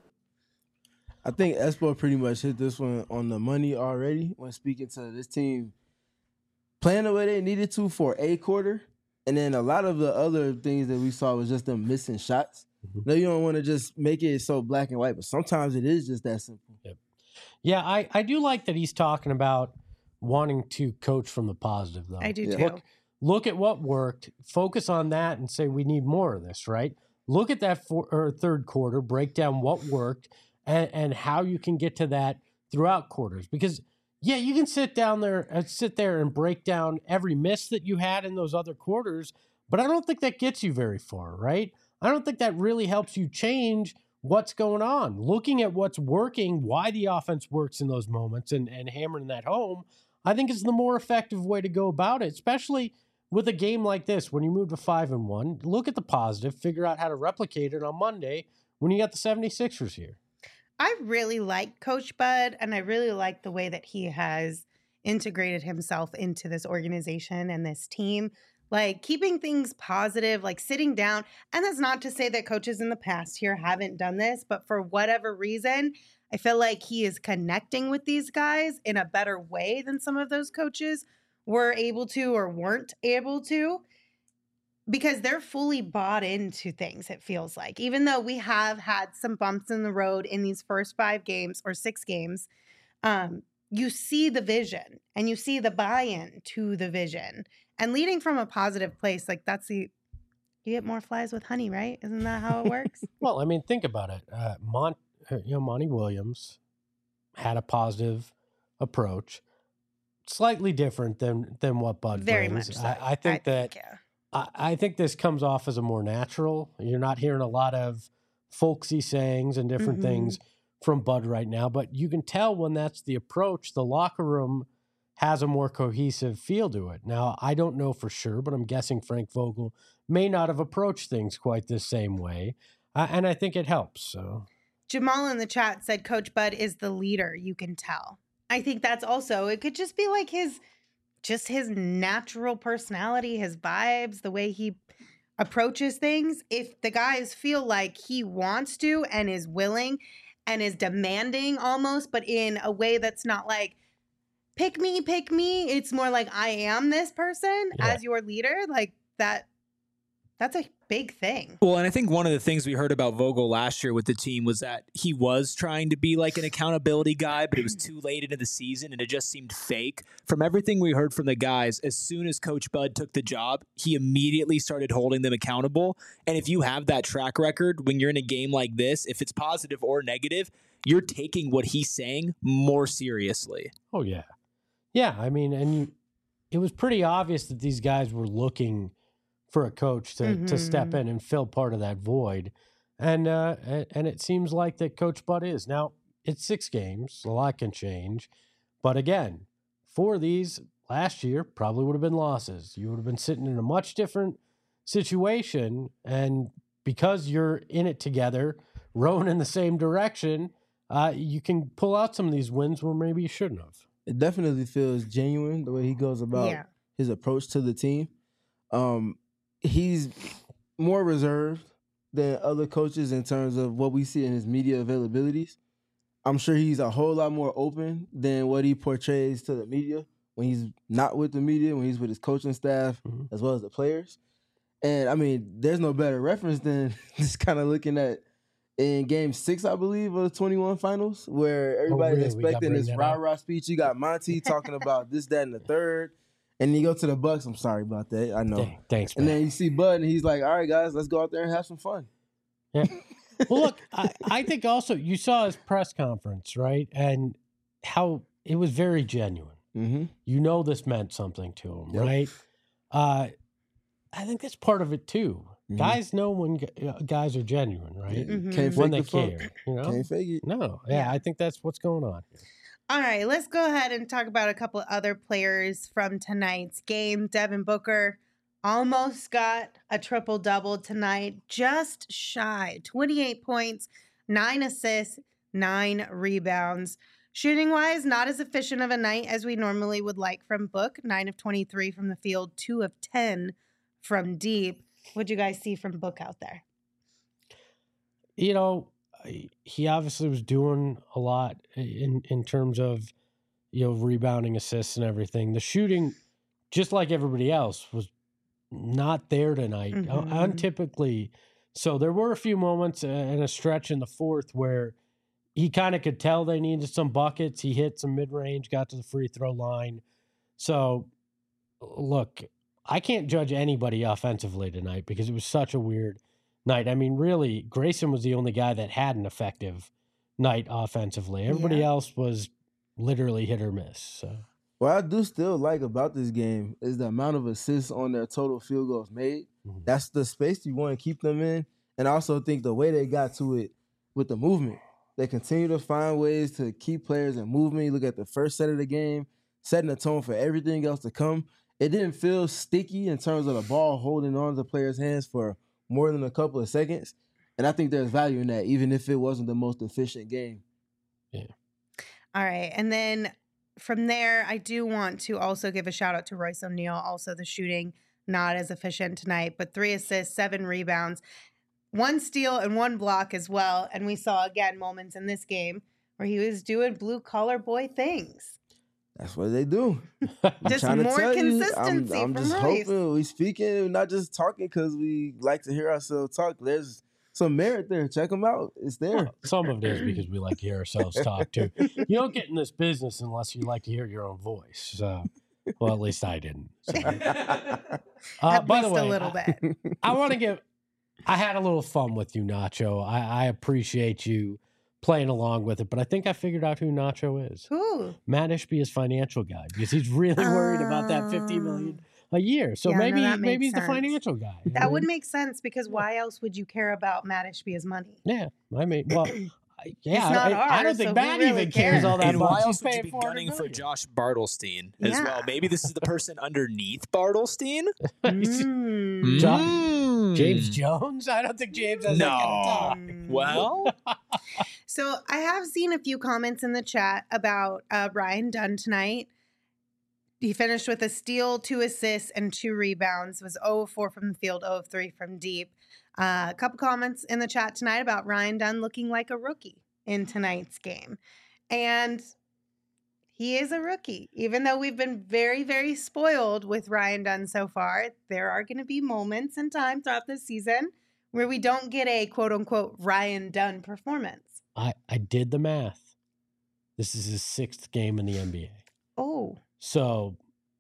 I think Espo pretty much hit this one on the money already when speaking to this team playing the way they needed to for a quarter. And then a lot of the other things that we saw was just them missing shots. Mm-hmm. No, you don't want to just make it so black and white, but sometimes it is just that simple. Yep. Yeah, I, I do like that he's talking about wanting to coach from the positive, though. I do Yeah. too. Look, look at what worked, focus on that, and say we need more of this, right? Look at that for, or third quarter, break down what worked, and, and how you can get to that throughout quarters. Because yeah, you can sit down there, uh, sit there and break down every miss that you had in those other quarters, but I don't think that gets you very far, right? I don't think that really helps you change what's going on. Looking at what's working, why the offense works in those moments, and, and hammering that home, I think is the more effective way to go about it, especially with a game like this. When you move to five and one, look at the positive, figure out how to replicate it on Monday when you got the seventy-sixers here. I really like Coach Bud, and I really like the way that he has integrated himself into this organization and this team. Like keeping things positive, like sitting down. And that's not to say that coaches in the past here haven't done this, but for whatever reason, I feel like he is connecting with these guys in a better way than some of those coaches were able to or weren't able to, because they're fully bought into things, it feels like. Even though we have had some bumps in the road in these first five games or six games, um, you see the vision and you see the buy-in to the vision. And leading from a positive place, like that's the, you get more flies with honey, right? Isn't that how it works? Well, I mean, think about it. Uh, Mon, you know, Monty Williams had a positive approach, slightly different than than what Bud Very brings. much so. I, I think I that think, yeah. I, I think this comes off as a more natural. You're not hearing a lot of folksy sayings and different Mhm. things from Bud right now, but you can tell when that's the approach, the locker room has a more cohesive feel to it. Now, I don't know for sure, but I'm guessing Frank Vogel may not have approached things quite the same way, uh, and I think it helps. So, Jamal in the chat said Coach Bud is the leader, you can tell. I think that's also, it could just be like his, just his natural personality, his vibes, the way he approaches things. If the guys feel like he wants to and is willing and is demanding almost, but in a way that's not like, pick me, pick me. It's more like I am this person Yeah. as your leader. Like that, that's a big thing. Well, and I think one of the things we heard about Vogel last year with the team was that he was trying to be like an accountability guy, but it was too late into the season and it just seemed fake. From everything we heard from the guys, as soon as Coach Bud took the job, he immediately started holding them accountable. And if you have that track record when you're in a game like this, if it's positive or negative, you're taking what he's saying more seriously. oh yeah, yeah. I mean, and you, it was pretty obvious that these guys were looking for a coach to to step Mhm. in and fill part of that void, and uh, and, and it seems like that Coach Bud is. Now it's six games, a lot can change, but again, four of these last year probably would have been losses. You would have been sitting in a much different situation, and because you're in it together, rowing in the same direction, uh, you can pull out some of these wins where maybe you shouldn't have. It definitely feels genuine the way he goes about Yeah. his approach to the team. Um, he's more reserved than other coaches in terms of what we see in his media availabilities. I'm sure he's a whole lot more open than what he portrays to the media when he's not with the media, when he's with his coaching staff, Mhm. as well as the players. And I mean, there's no better reference than just kind of looking at in game six, I believe, of the twenty-one finals, where everybody's really? We gotta expecting bring this that rah up? rah speech. You got Monty talking about this, that, and the third. And you go to the Bucks. I'm sorry about that. I know. Dang, thanks, And man. then you see Bud, and he's like, "All right, guys, let's go out there and have some fun." Yeah. Well, look, I, I think also you saw his press conference, right? And how it was very genuine. Mm-hmm. You know this meant something to him, Yep. right? Uh, I think that's part of it too. Mhm. Guys know when gu- uh, guys are genuine, right? Mhm. Can't fake When they the funk. care, you know? Can't fake it. No, yeah, Yeah. I think that's what's going on here. All right, let's go ahead and talk about a couple other players from tonight's game. Devin Booker almost got a triple double tonight, just shy. twenty-eight points, nine assists, nine rebounds. Shooting wise, not as efficient of a night as we normally would like from Book. nine of twenty-three from the field, two of ten from deep. What'd you guys see from Book out there? You know, I- he obviously was doing a lot in in terms of, you know, rebounding, assists, and everything. The shooting, just like everybody else, was not there tonight, uh, Mhm. untypically. So there were a few moments uh, and a stretch in the fourth where he kind of could tell they needed some buckets. He hit some mid range, got to the free throw line. So, look, I can't judge anybody offensively tonight because it was such a weird night. I mean, really, Grayson was the only guy that had an effective night offensively. Everybody Yeah. else was literally hit or miss. So. What I do still like about this game is the amount of assists on their total field goals made. Mhm. That's the space you want to keep them in. And I also think the way they got to it with the movement, they continue to find ways to keep players in movement. You look at the first set of the game, setting the tone for everything else to come. It didn't feel sticky in terms of the ball holding on to the players' hands for more than a couple of seconds. And I think there's value in that, even if it wasn't the most efficient game. Yeah. All right. And then from there, I do want to also give a shout out to Royce O'Neal. Also, the shooting not as efficient tonight, but three assists, seven rebounds, one steal, and one block as well. And we saw again moments in this game where he was doing blue collar boy things. That's what they do. I'm Just trying to more tell you, I'm, consistency I'm from just Royce. hoping we speaking, not just talking because we like to hear ourselves talk. There's some merit there. Check them out. It's there. Well, some of it is because we like to hear ourselves talk too. You don't get in this business unless you like to hear your own voice. So, well, at least I didn't. So. Uh, At by least the way, a little I, bit. I want to give. I had a little fun with you, Nacho. I, I appreciate you playing along with it, but I think I figured out who Nacho is. Who? Matt Ishby is financial guy because he's really worried about that fifty million a year. So Yeah, no, maybe that maybe he's makes the sense. financial guy. you know what I That would mean? make sense because why else would you care about Matt Ishbia's money? Yeah, I mean, well, I- yeah, It's not I, I don't ours, think so Matt who really even cares cares? all that And much. why He's else would you paying be four hundred gunning for million. Josh Bartlestein as Yeah. well? Maybe this is the person underneath Bartlestein. Mm. John- Mm. James Jones? I don't think James has that kind of No. talk. Mm. Well, So I have seen a few comments in the chat about uh, Ryan Dunn tonight. He finished with a steal, two assists, and two rebounds. Was zero of four from the field, zero of three from deep. Uh, a couple comments in the chat tonight about Ryan Dunn looking like a rookie in tonight's game. And he is a rookie. Even though we've been very, very spoiled with Ryan Dunn so far, there are going to be moments and times throughout this season where we don't get a quote-unquote Ryan Dunn performance. I, I did the math. This is his sixth game in the N B A. Oh. So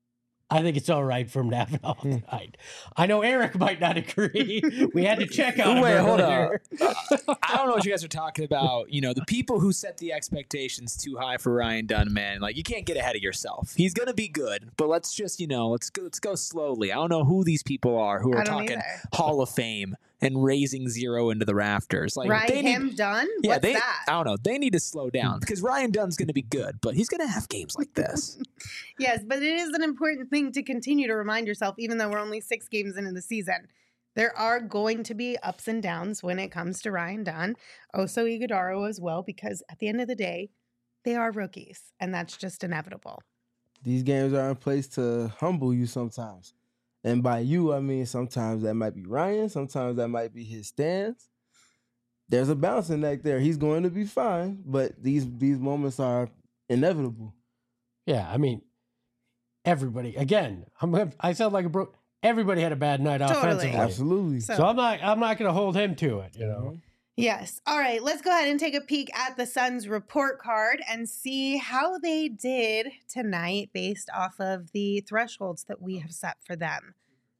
I think it's all right for him to have it all tonight. I know Eric might not agree. We had to check on him Wait, hold earlier. I don't know what you guys are talking about. You know, the people who set the expectations too high for Ryan Dunn, man, like you can't get ahead of yourself. He's gonna be good, but let's just, you know, let's go, let's go slowly. I don't know who these people are who I are don't talking either. Hall of Fame and raising zero into the rafters. Like Right, they him need, done? yeah, What's they. that? I don't know. They need to slow down because Ryan Dunn's gonna be good, but he's gonna have games like this. Yes, but it is an important thing to continue to remind yourself, even though we're only six games into the season. There are going to be ups and downs when it comes to Ryan Dunn, Oso Ighodaro as well, because at the end of the day, they are rookies, and that's just inevitable. These games are in place to humble you sometimes. And by you, I mean sometimes that might be Ryan, sometimes that might be his stance. There's a balancing act there. He's going to be fine, but these these moments are inevitable. Yeah, I mean, everybody. Again, I'm, I sound like a bro. Everybody had a bad night Totally. offensively. Absolutely. So- So I'm not. I'm not going to hold him to it. You know. Yes. All right. Let's go ahead and take a peek at the Suns report card and see how they did tonight based off of the thresholds that we have set for them.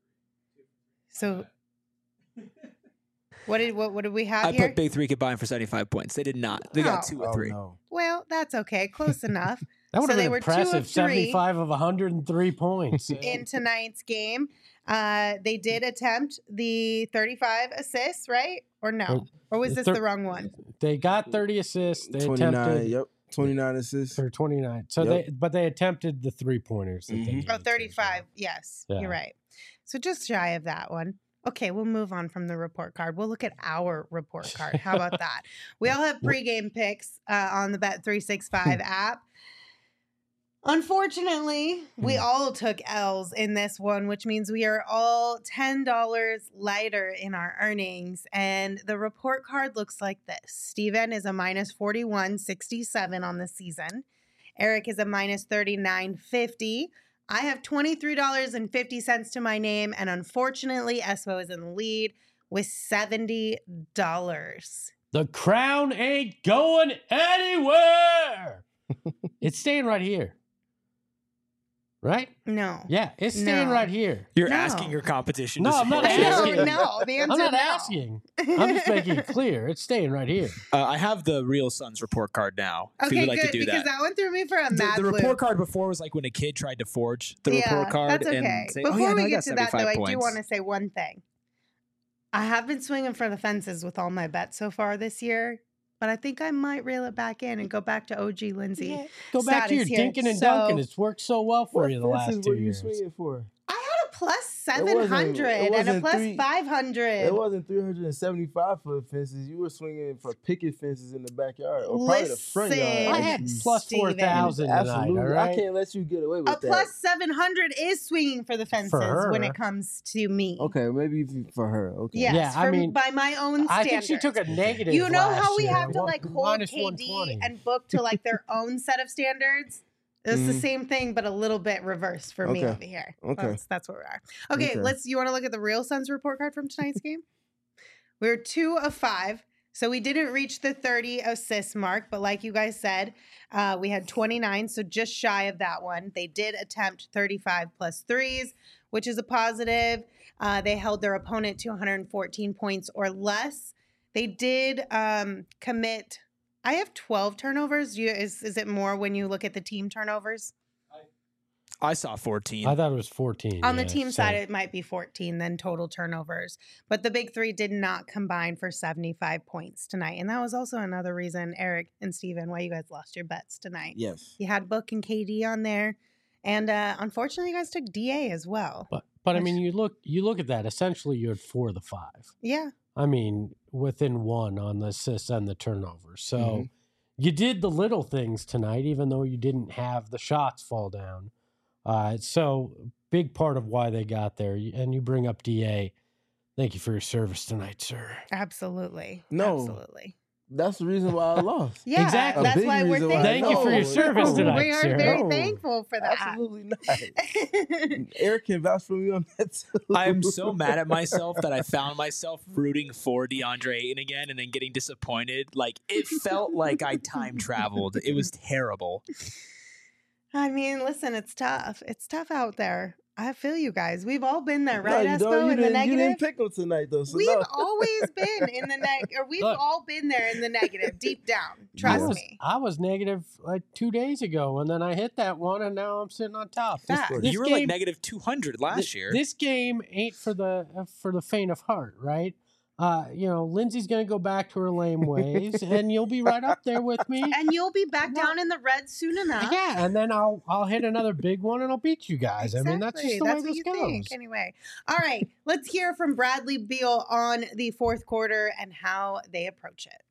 So, what did what, what did we have I here? put Big Three combined for seventy-five points. They did not. They got Oh. two or Oh, three. no. Well, that's okay. Close enough. That would So have they been were two of impressive. three. Seventy-five of one hundred three points. In tonight's game, uh, they did attempt the thirty-five assists, right? Or no? Or was this Thir- the wrong one? They got thirty assists. They twenty-nine, attempted yep. twenty-nine assists. for twenty-nine. So Yep. they, but they attempted the three pointers. That they Mhm. needed Oh, to, thirty-five. so. Yes, Yeah. you're right. So just shy of that one. Okay, we'll move on from the report card. We'll look at our report card. How about that? We all have pregame picks uh, on the Bet three sixty-five app. Unfortunately, we Hmm. all took L's in this one, which means we are all ten dollars lighter in our earnings. And the report card looks like this. Steven is a minus forty-one sixty-seven on the season. Eric is a minus thirty-nine fifty. I have twenty-three dollars and fifty cents to my name. And unfortunately, Espo is in the lead with seventy dollars. The crown ain't going anywhere. It's staying right here. right? No. Yeah, it's staying No. right here. You're No. asking your competition. No, to I'm not support you. asking. No, no. The answer I'm not no. asking. I'm just making it clear. It's staying right here. Uh, I have the Real Suns report card now. If you Okay, would like good, to do because that. that one threw me for a The, mad the loop. report card before was like when a kid tried to forge the yeah, report card that's okay. and say, Before "Oh yeah, no, we I get got to that, though, seventy-five I points." do want to say one thing. I have been swinging for the fences with all my bets so far this year, but I think I might reel it back in and go back to O G Lindsay. Go back to your status here. dinking and So- dunking. It's worked so well for What you the last fences two were you years. swinging for? I had a plus It seven wasn't- hundred it and a wasn't plus three- five hundred. It wasn't three hundred seventy-five foot fences. You were swinging for picket fences in the backyard, or probably the front yard. Listen, I had actually. plus Steven. four thousand tonight. Absolutely, All I right. can't let you get away with A that. plus seven hundred is swinging for the fences when her. it comes to me. Okay, maybe if you- for her. Okay. Yes, Yeah, I from- mean, by my own I standards. think she took a negative. You know how last we year, have to one- like hold minus K one D twenty. and Book to like their own set of standards? It's the Mhm. same thing, but a little bit reversed for me Okay. over here. Okay. That's, that's where we are. Okay, Okay. let's. You want to look at the Real Suns report card from tonight's game? We were two of five. So we didn't reach the thirty assist mark, but like you guys said, uh, we had twenty-nine, so just shy of that one. They did attempt thirty-five plus threes, which is a positive. Uh, they held their opponent to one hundred fourteen points or less. They did um, commit. I have twelve turnovers. You, is is it more when you look at the team turnovers? I saw fourteen. I thought it was fourteen. On the yeah, team so- side, it might be fourteen, then total turnovers. But the big three did not combine for seventy-five points tonight. And that was also another reason, Eric and Steven, why you guys lost your bets tonight. Yes. You had Book and K D on there. And uh, unfortunately, you guys took D A as well. But but I Which- mean, you look you look at that. Essentially, you had four of the five. Yeah. I mean, within one on the assists and the turnovers. So Mhm. you did the little things tonight, even though you didn't have the shots fall down. Uh, so big part of why they got there. And you bring up D A. Thank you for your service tonight, sir. Absolutely. No. Absolutely. That's the reason why I lost. Yeah, Exactly. that's A big why we're reason why- thankful. Thank you for your No, service no. tonight, We are sir. very No. thankful for that. Absolutely not. Eric can vouch for me on that too. I am so mad at myself that I found myself rooting for DeAndre Ayton again and then getting disappointed. Like, it felt like I time traveled. It was terrible. I mean, listen, it's tough. It's tough out there. I feel you guys. We've all been there, No, right, you Espo, don't. You in the didn't, negative? you didn't pick them tonight, though. So We've no. always been in the neg, or we've Look. all been there in the negative, deep down. I Trust was, me. I was negative like two days ago, and then I hit that one, and now I'm sitting on top. This, Fact. this you were game, like negative two hundred last thi- year. This game ain't for the uh, for the faint of heart, right? Uh, you know, Lindsay's gonna go back to her lame ways, and you'll be right up there with me. And you'll be back down in the red soon enough. Yeah, and then I'll I'll hit another big one, and I'll beat you guys. I mean, that's just the That's way what this you goes. think. Anyway, all right. Let's hear from Bradley Beal on the fourth quarter and how they approach it.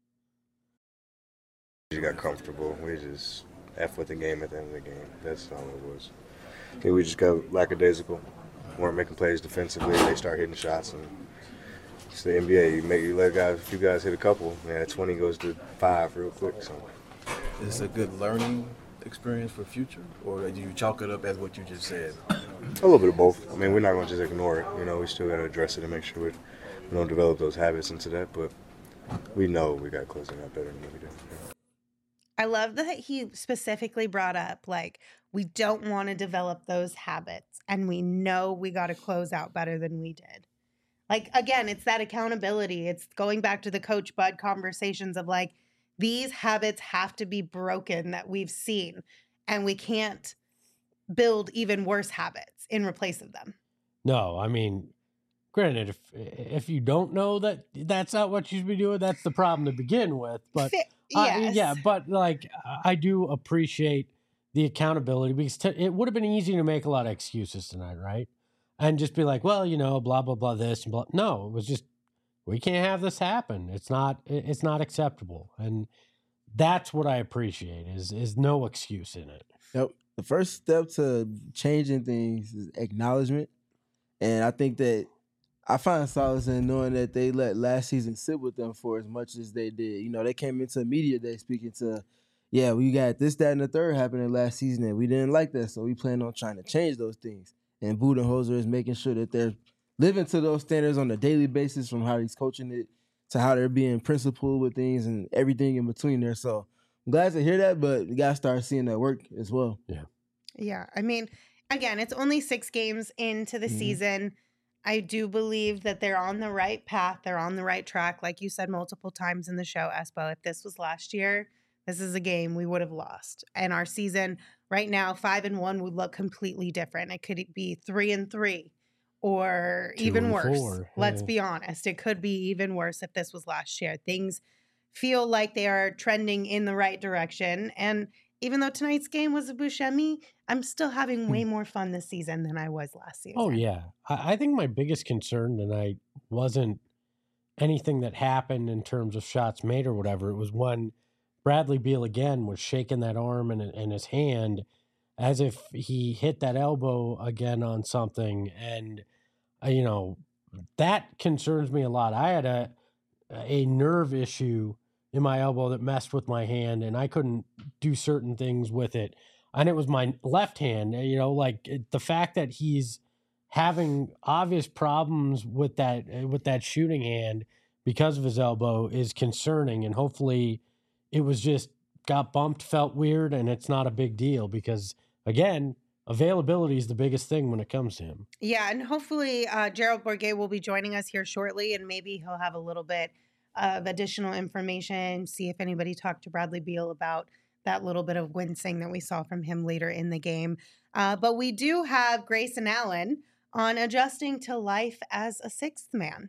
We just got comfortable. We just F with the game at the end of the game. That's all it was. Okay, we just got lackadaisical. Weren't making plays defensively. They start hitting shots, and it's the N B A. You make you let guys, a few guys hit a couple, man. That twenty goes to five real quick. So Is this a good learning experience for future, or do you chalk it up as what you just said? a little bit of both. I mean, we're not going to just ignore it. You know, we still got to address it and make sure we, we don't develop those habits into that. But we know we got to close it out better than what we did. I love that he specifically brought up, like, we don't want to develop those habits, and we know we got to close out better than we did. Like, again, it's that accountability. It's going back to the Coach Bud conversations of, like, these habits have to be broken that we've seen, and we can't build even worse habits in replace of them. No, I mean, granted, if if you don't know that that's not what you should be doing, that's the problem to begin with. But Fi- uh, yes. yeah, but like I do appreciate the accountability because t- it would have been easy to make a lot of excuses tonight, right? And just be like, well, you know, blah blah blah this and blah. No, it was just we can't have this happen. It's not it- it's not acceptable, and that's what I appreciate is is no excuse in it. Yep. The first step to changing things is acknowledgement. And I think that I find solace in knowing that they let last season sit with them for as much as they did. You know, they came into media day speaking to, yeah, we got this, that, and the third happening last season, and we didn't like that, so we plan on trying to change those things. And Budenholzer is making sure that they're living to those standards on a daily basis, from how he's coaching it to how they're being principled with things and everything in between there. So I'm glad to hear that, but we got to start seeing that work as well. Yeah. Yeah. I mean, again, it's only six games into the Mhm. season. I do believe that they're on the right path. They're on the right track. Like you said multiple times in the show, Espo, if this was last year, this is a game we would have lost. And our season right now, five and one, would look completely different. It could be three and three or Two even and worse. four, Let's yeah. be honest. It could be even worse if this was last year. Things feel like they are trending in the right direction. And even though tonight's game was a Buscemi, I'm still having way more fun this season than I was last season. Oh yeah, I, I think my biggest concern tonight wasn't anything that happened in terms of shots made or whatever. It was when Bradley Beal again was shaking that arm in, in his hand as if he hit that elbow again on something, and uh, you know that concerns me a lot. I had a a nerve issue in my elbow that messed with my hand, and I couldn't do certain things with it. And it was my left hand. You know, like it, the fact that he's having obvious problems with that with that shooting hand because of his elbow is concerning. And hopefully, it was just got bumped, felt weird, and it's not a big deal because again, availability is the biggest thing when it comes to him. Yeah, and hopefully uh, Gerald Bourguet will be joining us here shortly, and maybe he'll have a little bit of additional information, see if anybody talked to Bradley Beal about that little bit of wincing that we saw from him later in the game. Uh, but we do have Grayson Allen on adjusting to life as a sixth man.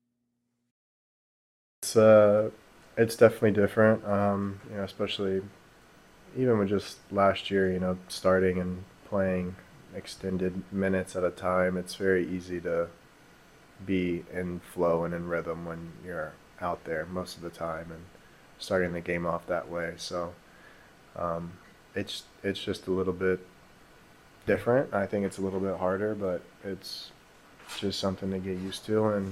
It's uh, it's definitely different. Um, you know, especially even with just last year, you know, starting and playing extended minutes at a time. It's very easy to be in flow and in rhythm when you're out there most of the time and starting the game off that way. So um, it's it's just a little bit different. I think it's a little bit harder, but it's just something to get used to, and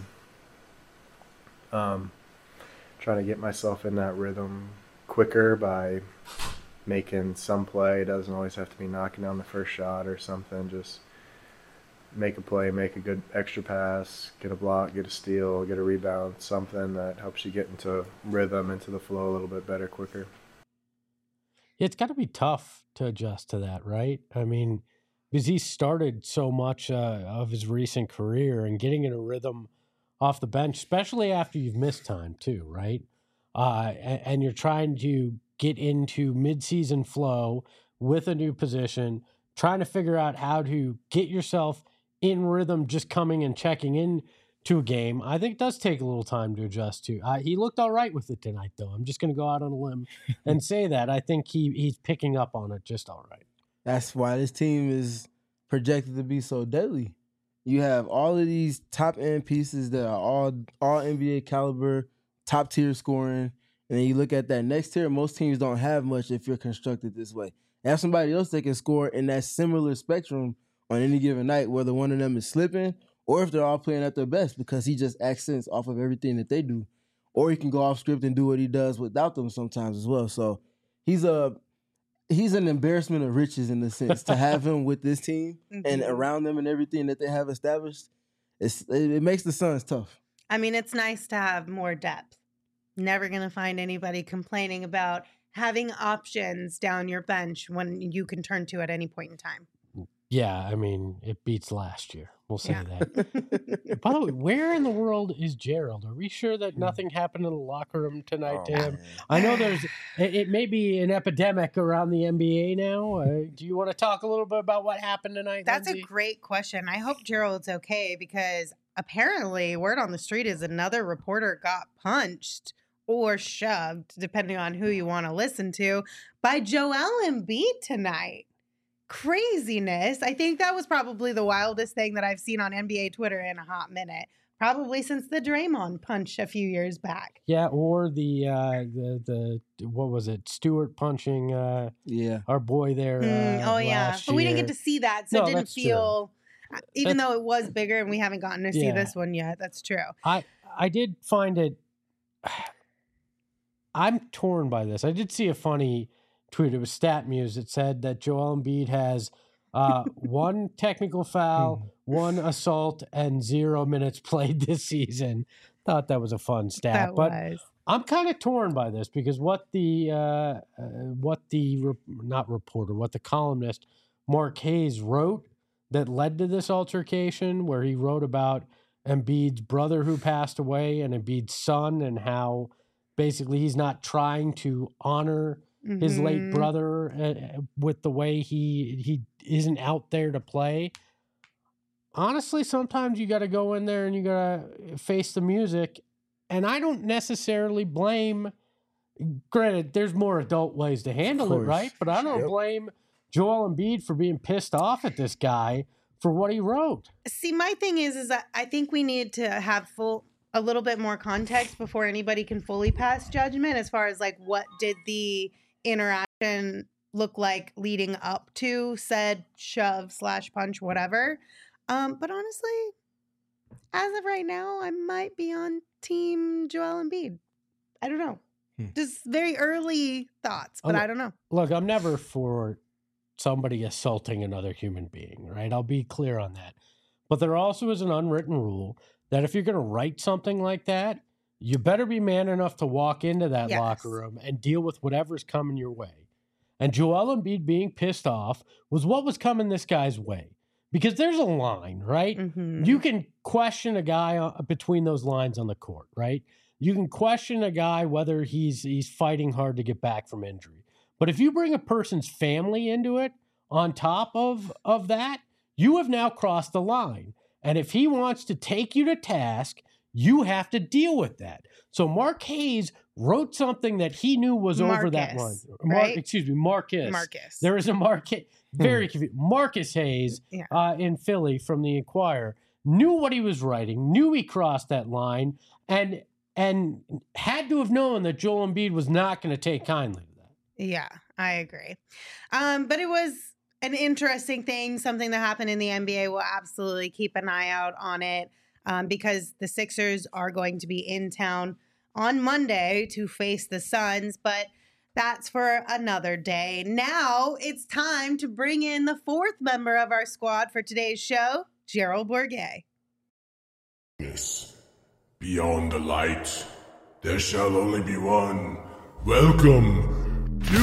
um, trying to get myself in that rhythm quicker by making some play. It doesn't always have to be knocking down the first shot or something. Just make a play, make a good extra pass, get a block, get a steal, get a rebound, something that helps you get into rhythm, into the flow a little bit better, quicker. It's got to be tough to adjust to that, right? I mean, because he started so much uh, of his recent career and getting in a rhythm off the bench, especially after you've missed time too, right? Uh, and, and you're trying to get into midseason flow with a new position, trying to figure out how to get yourself in rhythm, just coming and checking in to a game. I think it does take a little time to adjust to. Uh, he looked all right with it tonight, though. I'm just going to go out on a limb and say that. I think he he's picking up on it just all right. That's why this team is projected to be so deadly. You have all of these top end pieces that are all all N B A caliber, top tier scoring, and then you look at that next tier. Most teams don't have much if you're constructed this way. Have somebody else that can score in that similar spectrum on any given night, whether one of them is slipping or if they're all playing at their best, because he just accents off of everything that they do. Or he can go off script and do what he does without them sometimes as well. So he's a he's an embarrassment of riches in the sense to have him with this team and around them and everything that they have established. It's, it, it makes the Suns tough. I mean, it's nice to have more depth. Never going to find anybody complaining about having options down your bench when you can turn to at any point in time. Yeah, I mean, it beats last year. We'll say Yeah. that. By the way, where in the world is Gerald? Are we sure that nothing happened in the locker room tonight to him? I know there's, it, it may be an epidemic around the N B A now. Uh, do you want to talk a little bit about what happened tonight? That's Lindsay? a great question. I hope Gerald's okay because apparently word on the street is another reporter got punched or shoved, depending on who you want to listen to, by Joel Embiid tonight. Craziness. I think that was probably the wildest thing that I've seen on N B A Twitter in a hot minute. Probably since the Draymond punch a few years back. Yeah, or the uh, the the what was it? Stewart punching uh, yeah our boy there. Mm, Uh, oh yeah, last but we didn't year. get to see that, so No, it didn't that's true. feel. Even That's- though it was bigger and we haven't gotten to see Yeah. this one yet, that's true. I I did find it. I'm torn by this. I did see a funny tweet. It was StatMuse. It said that Joel Embiid has uh, one technical foul, one assault, and zero minutes played this season. Thought that was a fun stat, That but was. I'm kind of torn by this because what the uh, uh, what the re- not reporter, what the columnist Marquez wrote that led to this altercation, where he wrote about Embiid's brother who passed away and Embiid's son, and how basically he's not trying to honor mm-hmm. his late brother uh, with the way he he isn't out there to play. Honestly, sometimes you got to go in there and you got to face the music. And I don't necessarily blame, granted, there's more adult ways to handle it, right? But I don't yep. blame Joel Embiid for being pissed off at this guy for what he wrote. See, my thing is, is that I think we need to have full, a little bit more context before anybody can fully pass judgment as far as like what did the interaction look like leading up to said shove slash punch, whatever. Um, but honestly, as of right now, I might be on team Joel Embiid. I don't know. Hmm. Just very early thoughts, but oh, I don't know. Look, I'm never for somebody assaulting another human being, right? I'll be clear on that. But there also is an unwritten rule that if you're going to write something like that, you better be man enough to walk into that yes. locker room and deal with whatever's coming your way. And Joel Embiid being pissed off was what was coming this guy's way. Because there's a line, right? Mm-hmm. You can question a guy between those lines on the court, right? You can question a guy whether he's he's fighting hard to get back from injury. But if you bring a person's family into it on top of, of that, you have now crossed the line. And if he wants to take you to task, you have to deal with that. So Marquez wrote something that he knew was Marcus, over that line. Mar- right? Excuse me, Marcus. Marcus. There is a Marcus. Very confused. Marcus Hayes yeah. uh, in Philly from the Inquirer knew what he was writing, knew he crossed that line, and and had to have known that Joel Embiid was not going to take kindly to that. Yeah, I agree. Um, but it was an interesting thing, something that happened in the N B A. We'll absolutely keep an eye out on it um, because the Sixers are going to be in town on Monday to face the Suns, but that's for another day. Now it's time to bring in the fourth member of our squad for today's show, Gerald Bourguet. Beyond the light, there shall only be one. Welcome to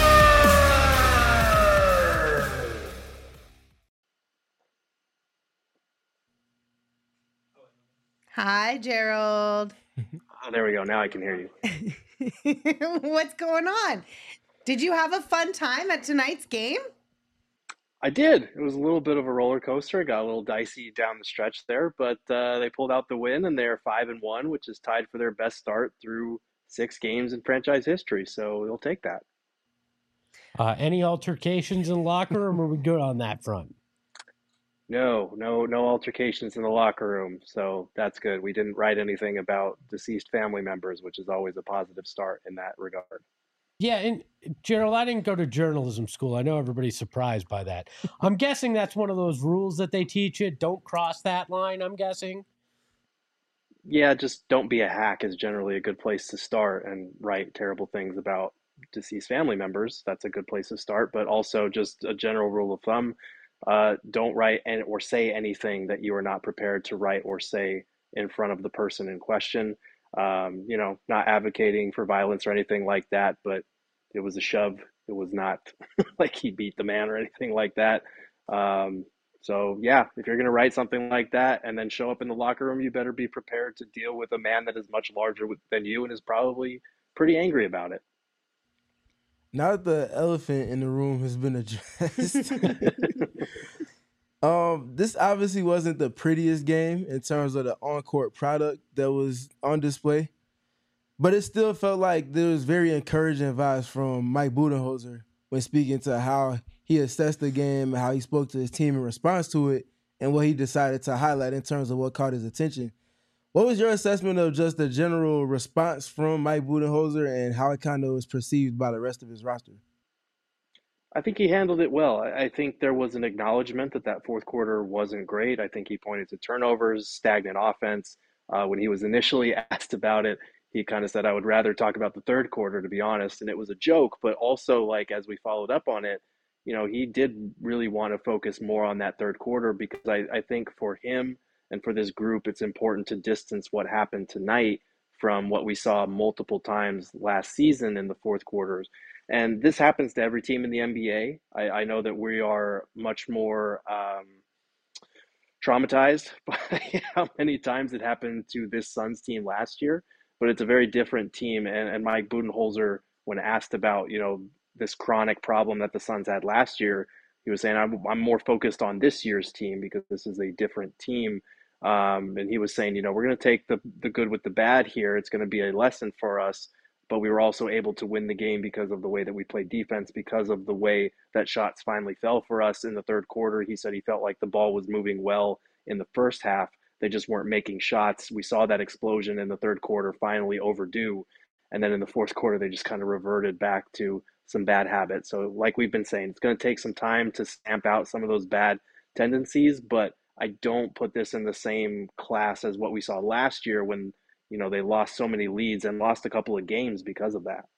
Hi, Gerald. Oh, there we go. Now I can hear you. What's going on? Did you have a fun time at tonight's game? I did. It was a little bit of a roller coaster. It got a little dicey down the stretch there, but uh, they pulled out the win, and they're five and one, which is tied for their best start through six games in franchise history. So they'll take that. Uh, any altercations in the locker room, or are we good on that front? No, no, no altercations in the locker room. So that's good. We didn't write anything about deceased family members, which is always a positive start in that regard. Yeah, and Gerald, I didn't go to journalism school. I know everybody's surprised by that. I'm guessing that's one of those rules that they teach you. Don't cross that line, I'm guessing. Yeah, just don't be a hack is generally a good place to start, and write terrible things about deceased family members. That's a good place to start, but also just a general rule of thumb. Uh, don't write and or say anything that you are not prepared to write or say in front of the person in question. Um, you know, not advocating for violence or anything like that, but it was a shove. It was not like he beat the man or anything like that. Um, so yeah, if you're going to write something like that and then show up in the locker room, you better be prepared to deal with a man that is much larger than you and is probably pretty angry about it. Now that the elephant in the room has been addressed, um, this obviously wasn't the prettiest game in terms of the on-court product that was on display, but it still felt like there was very encouraging vibes from Mike Budenholzer when speaking to how he assessed the game and how he spoke to his team in response to it and what he decided to highlight in terms of what caught his attention. What was your assessment of just the general response from Mike Budenholzer and how it kind of was perceived by the rest of his roster? I think he handled it well. I think there was an acknowledgement that that fourth quarter wasn't great. I think he pointed to turnovers, stagnant offense. Uh, when he was initially asked about it, he kind of said, I would rather talk about the third quarter, to be honest. And it was a joke, but also, like, as we followed up on it, you know, he did really want to focus more on that third quarter because I, I think for him and for this group, it's important to distance what happened tonight from what we saw multiple times last season in the fourth quarters. And this happens to every team in the N B A. I, I know that we are much more um, traumatized by how many times it happened to this Suns team last year, but it's a very different team. And, and Mike Budenholzer, when asked about, you know, this chronic problem that the Suns had last year, he was saying, I'm, I'm more focused on this year's team because this is a different team. Um, and he was saying, you know, we're going to take the, the good with the bad here. It's going to be a lesson for us. But we were also able to win the game because of the way that we played defense, because of the way that shots finally fell for us in the third quarter. He said he felt like the ball was moving well in the first half. They just weren't making shots. We saw that explosion in the third quarter, finally overdue. And then in the fourth quarter, they just kind of reverted back to some bad habits. So like we've been saying, it's going to take some time to stamp out some of those bad tendencies, but I don't put this in the same class as what we saw last year when, you know, they lost so many leads and lost a couple of games because of that.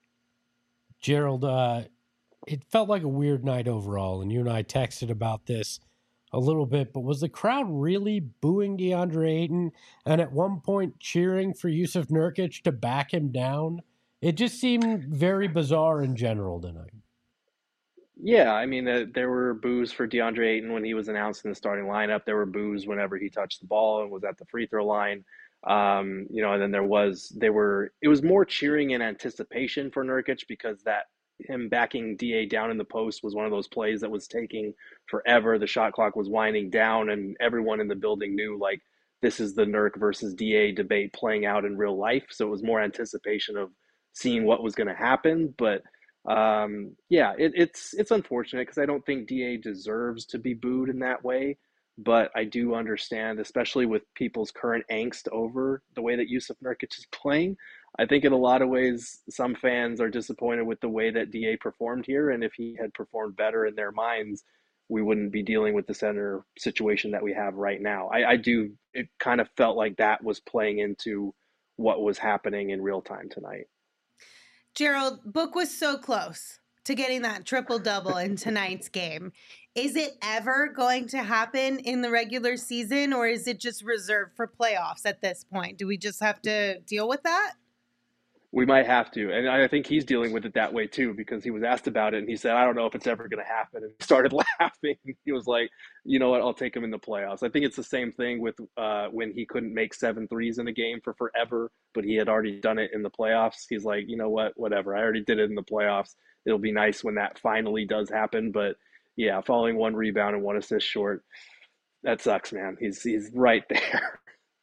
Gerald, uh, it felt like a weird night overall, and you and I texted about this a little bit, but was the crowd really booing DeAndre Ayton and at one point cheering for Yusuf Nurkic to back him down? It just seemed very bizarre in general tonight. Yeah, I mean, uh, there were boos for DeAndre Ayton when he was announced in the starting lineup. There were boos whenever he touched the ball and was at the free throw line. Um, you know, and then there was, they were, it was more cheering in anticipation for Nurkic because that him backing D A down in the post was one of those plays that was taking forever. The shot clock was winding down and everyone in the building knew like this is the Nurk versus D A debate playing out in real life. So it was more anticipation of seeing what was going to happen. But um, yeah, it, it's, it's unfortunate because I don't think D A deserves to be booed in that way. But I do understand, especially with people's current angst over the way that Yusuf Nurkic is playing. I think in a lot of ways, some fans are disappointed with the way that D A performed here. And if he had performed better in their minds, we wouldn't be dealing with the center situation that we have right now. I, I do, it kind of felt like that was playing into what was happening in real time tonight. Gerald, Book was so close to getting that triple-double in tonight's game. Is it ever going to happen in the regular season, or is it just reserved for playoffs at this point? Do we just have to deal with that? We might have to. And I think he's dealing with it that way too, because he was asked about it and he said, I don't know if it's ever going to happen. And he started laughing. He was like, you know what, I'll take him in the playoffs. I think it's the same thing with uh, when he couldn't make seven threes in a game for forever, but he had already done it in the playoffs. He's like, you know what, whatever. I already did it in the playoffs. It'll be nice when that finally does happen. But yeah, falling one rebound and one assist short, that sucks, man. He's, he's right there.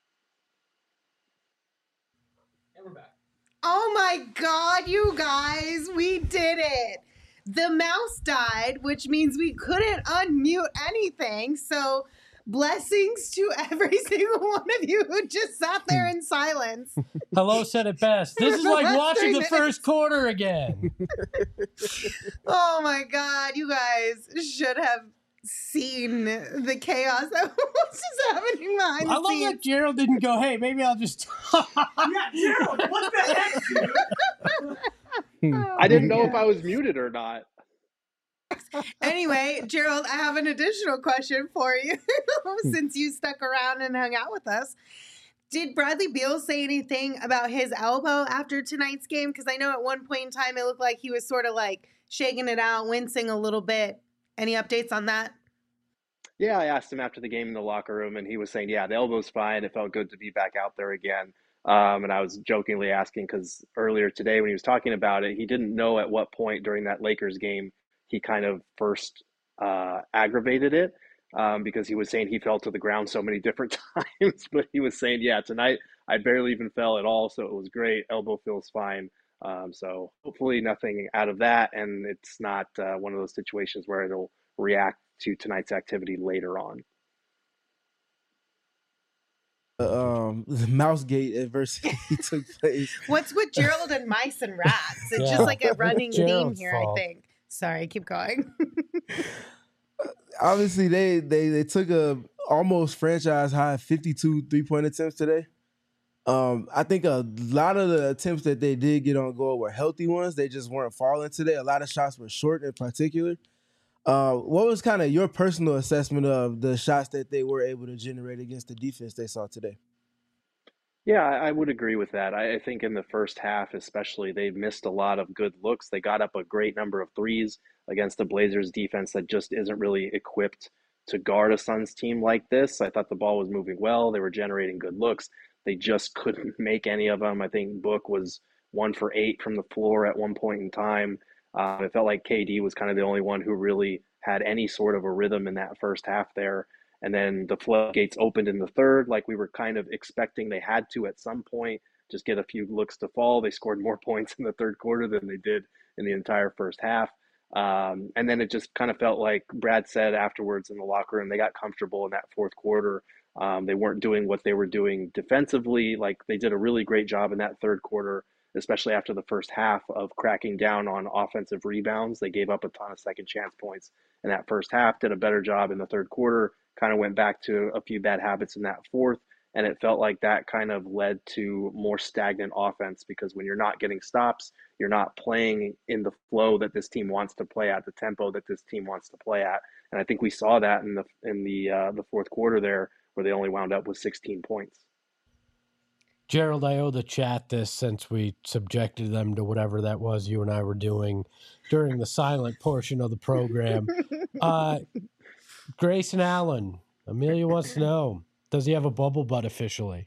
And we're back. Oh my God, you guys, we did it. The mouse died, which means we couldn't unmute anything. So blessings to every single one of you who just sat there in silence. Hello said it best. This is like watching the first quarter again. Oh my God, you guys should have seen the chaos that was just happening behind the I love scenes. that Gerald didn't go, hey, maybe I'll just Yeah, Gerald, what the heck, dude? I didn't know if I was muted or not. Anyway, Gerald, I have an additional question for you since you stuck around and hung out with us. Did Bradley Beal say anything about his elbow after tonight's game? Because I know at one point in time it looked like he was sort of like shaking it out, wincing a little bit. Any updates on that? Yeah, I asked him after the game in the locker room, and he was saying, yeah, the elbow's fine. It felt good to be back out there again. Um, and I was jokingly asking because earlier today when he was talking about it, he didn't know at what point during that Lakers game he kind of first uh, aggravated it um, because he was saying he fell to the ground so many different times. But he was saying, yeah, tonight I barely even fell at all, so it was great. Elbow feels fine. Um, so hopefully nothing out of that, and it's not uh, one of those situations where it'll react to tonight's activity later on. Uh, um, the Mousegate adversity took place. What's with Gerald and mice and rats? It's Yeah. just like a running Gerald's theme here, fault. I think. Sorry, keep going. Obviously, they they they took a almost franchise high fifty-two three point attempts today. Um, I think a lot of the attempts that they did get on goal were healthy ones. They just weren't falling today. A lot of shots were short in particular. Uh, what was kind of your personal assessment of the shots that they were able to generate against the defense they saw today? Yeah, I I would agree with that. I, I think in the first half, especially, they missed a lot of good looks. They got up a great number of threes against the Blazers defense that just isn't really equipped to guard a Suns team like this. I thought the ball was moving well. They were generating good looks. They just couldn't make any of them. I think Book was one for eight from the floor at one point in time. Uh, it felt like K D was kind of the only one who really had any sort of a rhythm in that first half there. And then the floodgates opened in the third, like we were kind of expecting they had to at some point, just get a few looks to fall. They scored more points in the third quarter than they did in the entire first half. Um, and then it just kind of felt like Brad said afterwards in the locker room, they got comfortable in that fourth quarter. Um, they weren't doing what they were doing defensively. Like they did a really great job in that third quarter, especially after the first half, of cracking down on offensive rebounds. They gave up a ton of second chance points in that first half, did a better job in the third quarter, kind of went back to a few bad habits in that fourth. And it felt like that kind of led to more stagnant offense, because when you're not getting stops, you're not playing in the flow that this team wants to play at, the tempo that this team wants to play at. And I think we saw that in the in the uh, the fourth quarter there, where they only wound up with sixteen points. Gerald, I owe the chat this since we subjected them to whatever that was you and I were doing during the silent portion of the program. Uh, Grayson Allen, Amelia wants to know, does he have a bubble butt officially?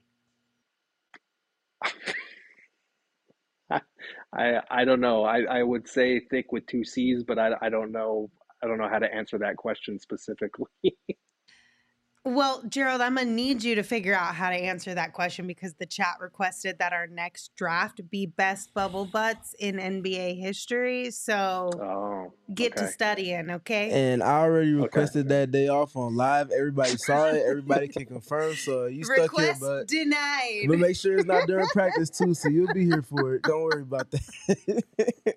I I don't know. I, I would say thick with two C's, but I, I don't know. I don't know how to answer that question specifically. Well, Gerald, I'm going to need you to figure out how to answer that question, because the chat requested that our next draft be best bubble butts in N B A history. So oh, get okay. to studying, okay? And I already requested Okay. that day off on live. Everybody saw it. Everybody can confirm. So you stuck Request here, but denied. but make sure it's not during practice too. So you'll be here for it. Don't worry about that.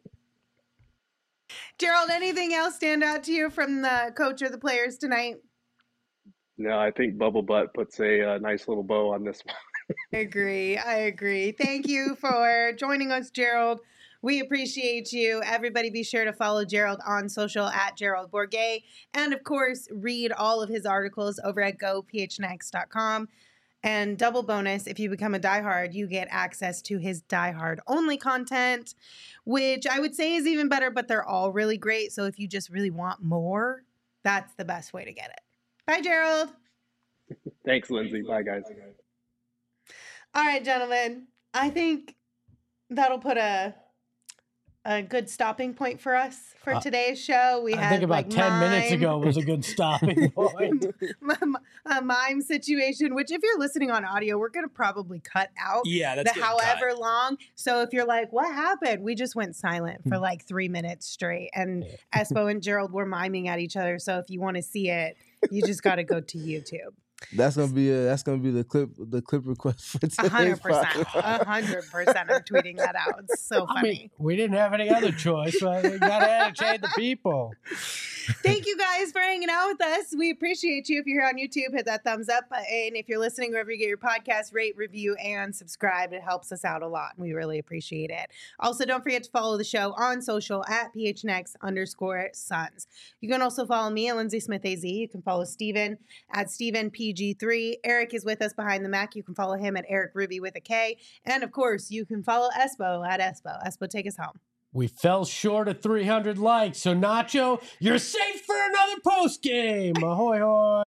Gerald, anything else stand out to you from the coach or the players tonight? No, I think Bubble Butt puts a, uh nice little bow on this one. I agree. I agree. Thank you for joining us, Gerald. We appreciate you. Everybody be sure to follow Gerald on social at Gerald Bourget. And of course, read all of his articles over at go p h n x dot com. And double bonus, if you become a diehard, you get access to his diehard only content, which I would say is even better, but they're all really great. So if you just really want more, that's the best way to get it. Bye, Gerald. Thanks, Lindsay. Bye, guys. All right, gentlemen. I think that'll put a a good stopping point for us for Uh, today's show. We I had think about like ten minutes mime- ago was a good stopping point. a mime situation, which if you're listening on audio, we're going to probably cut out Yeah, that's the getting cut. however long. So if you're like, what happened? We just went silent for like three minutes straight. And Espo and Gerald were miming at each other. So if you want to see it, you just got to go to YouTube. That's gonna be a, that's gonna be the clip the clip request for A today's hundred percent. podcast. A hundred percent. I'm tweeting that out. It's so I funny. mean, we didn't have any other choice. So we got to entertain the people. Thank you guys for hanging out with us. We appreciate you. If you're here on YouTube, hit that thumbs up button. If you're listening wherever you get your podcast, rate, review, and subscribe. It helps us out a lot. We really appreciate it. Also, don't forget to follow the show on social at P H N X underscore Suns. You can also follow me at Lindsay Smith A Z. You can follow Steven at Steven P G three. Eric is with us behind the Mac. You can follow him at Eric Ruby with a K. And of course, you can follow Espo at Espo. Espo, take us home. We fell short of three hundred likes. So, Nacho, you're safe for another post game. Ahoy, hoy.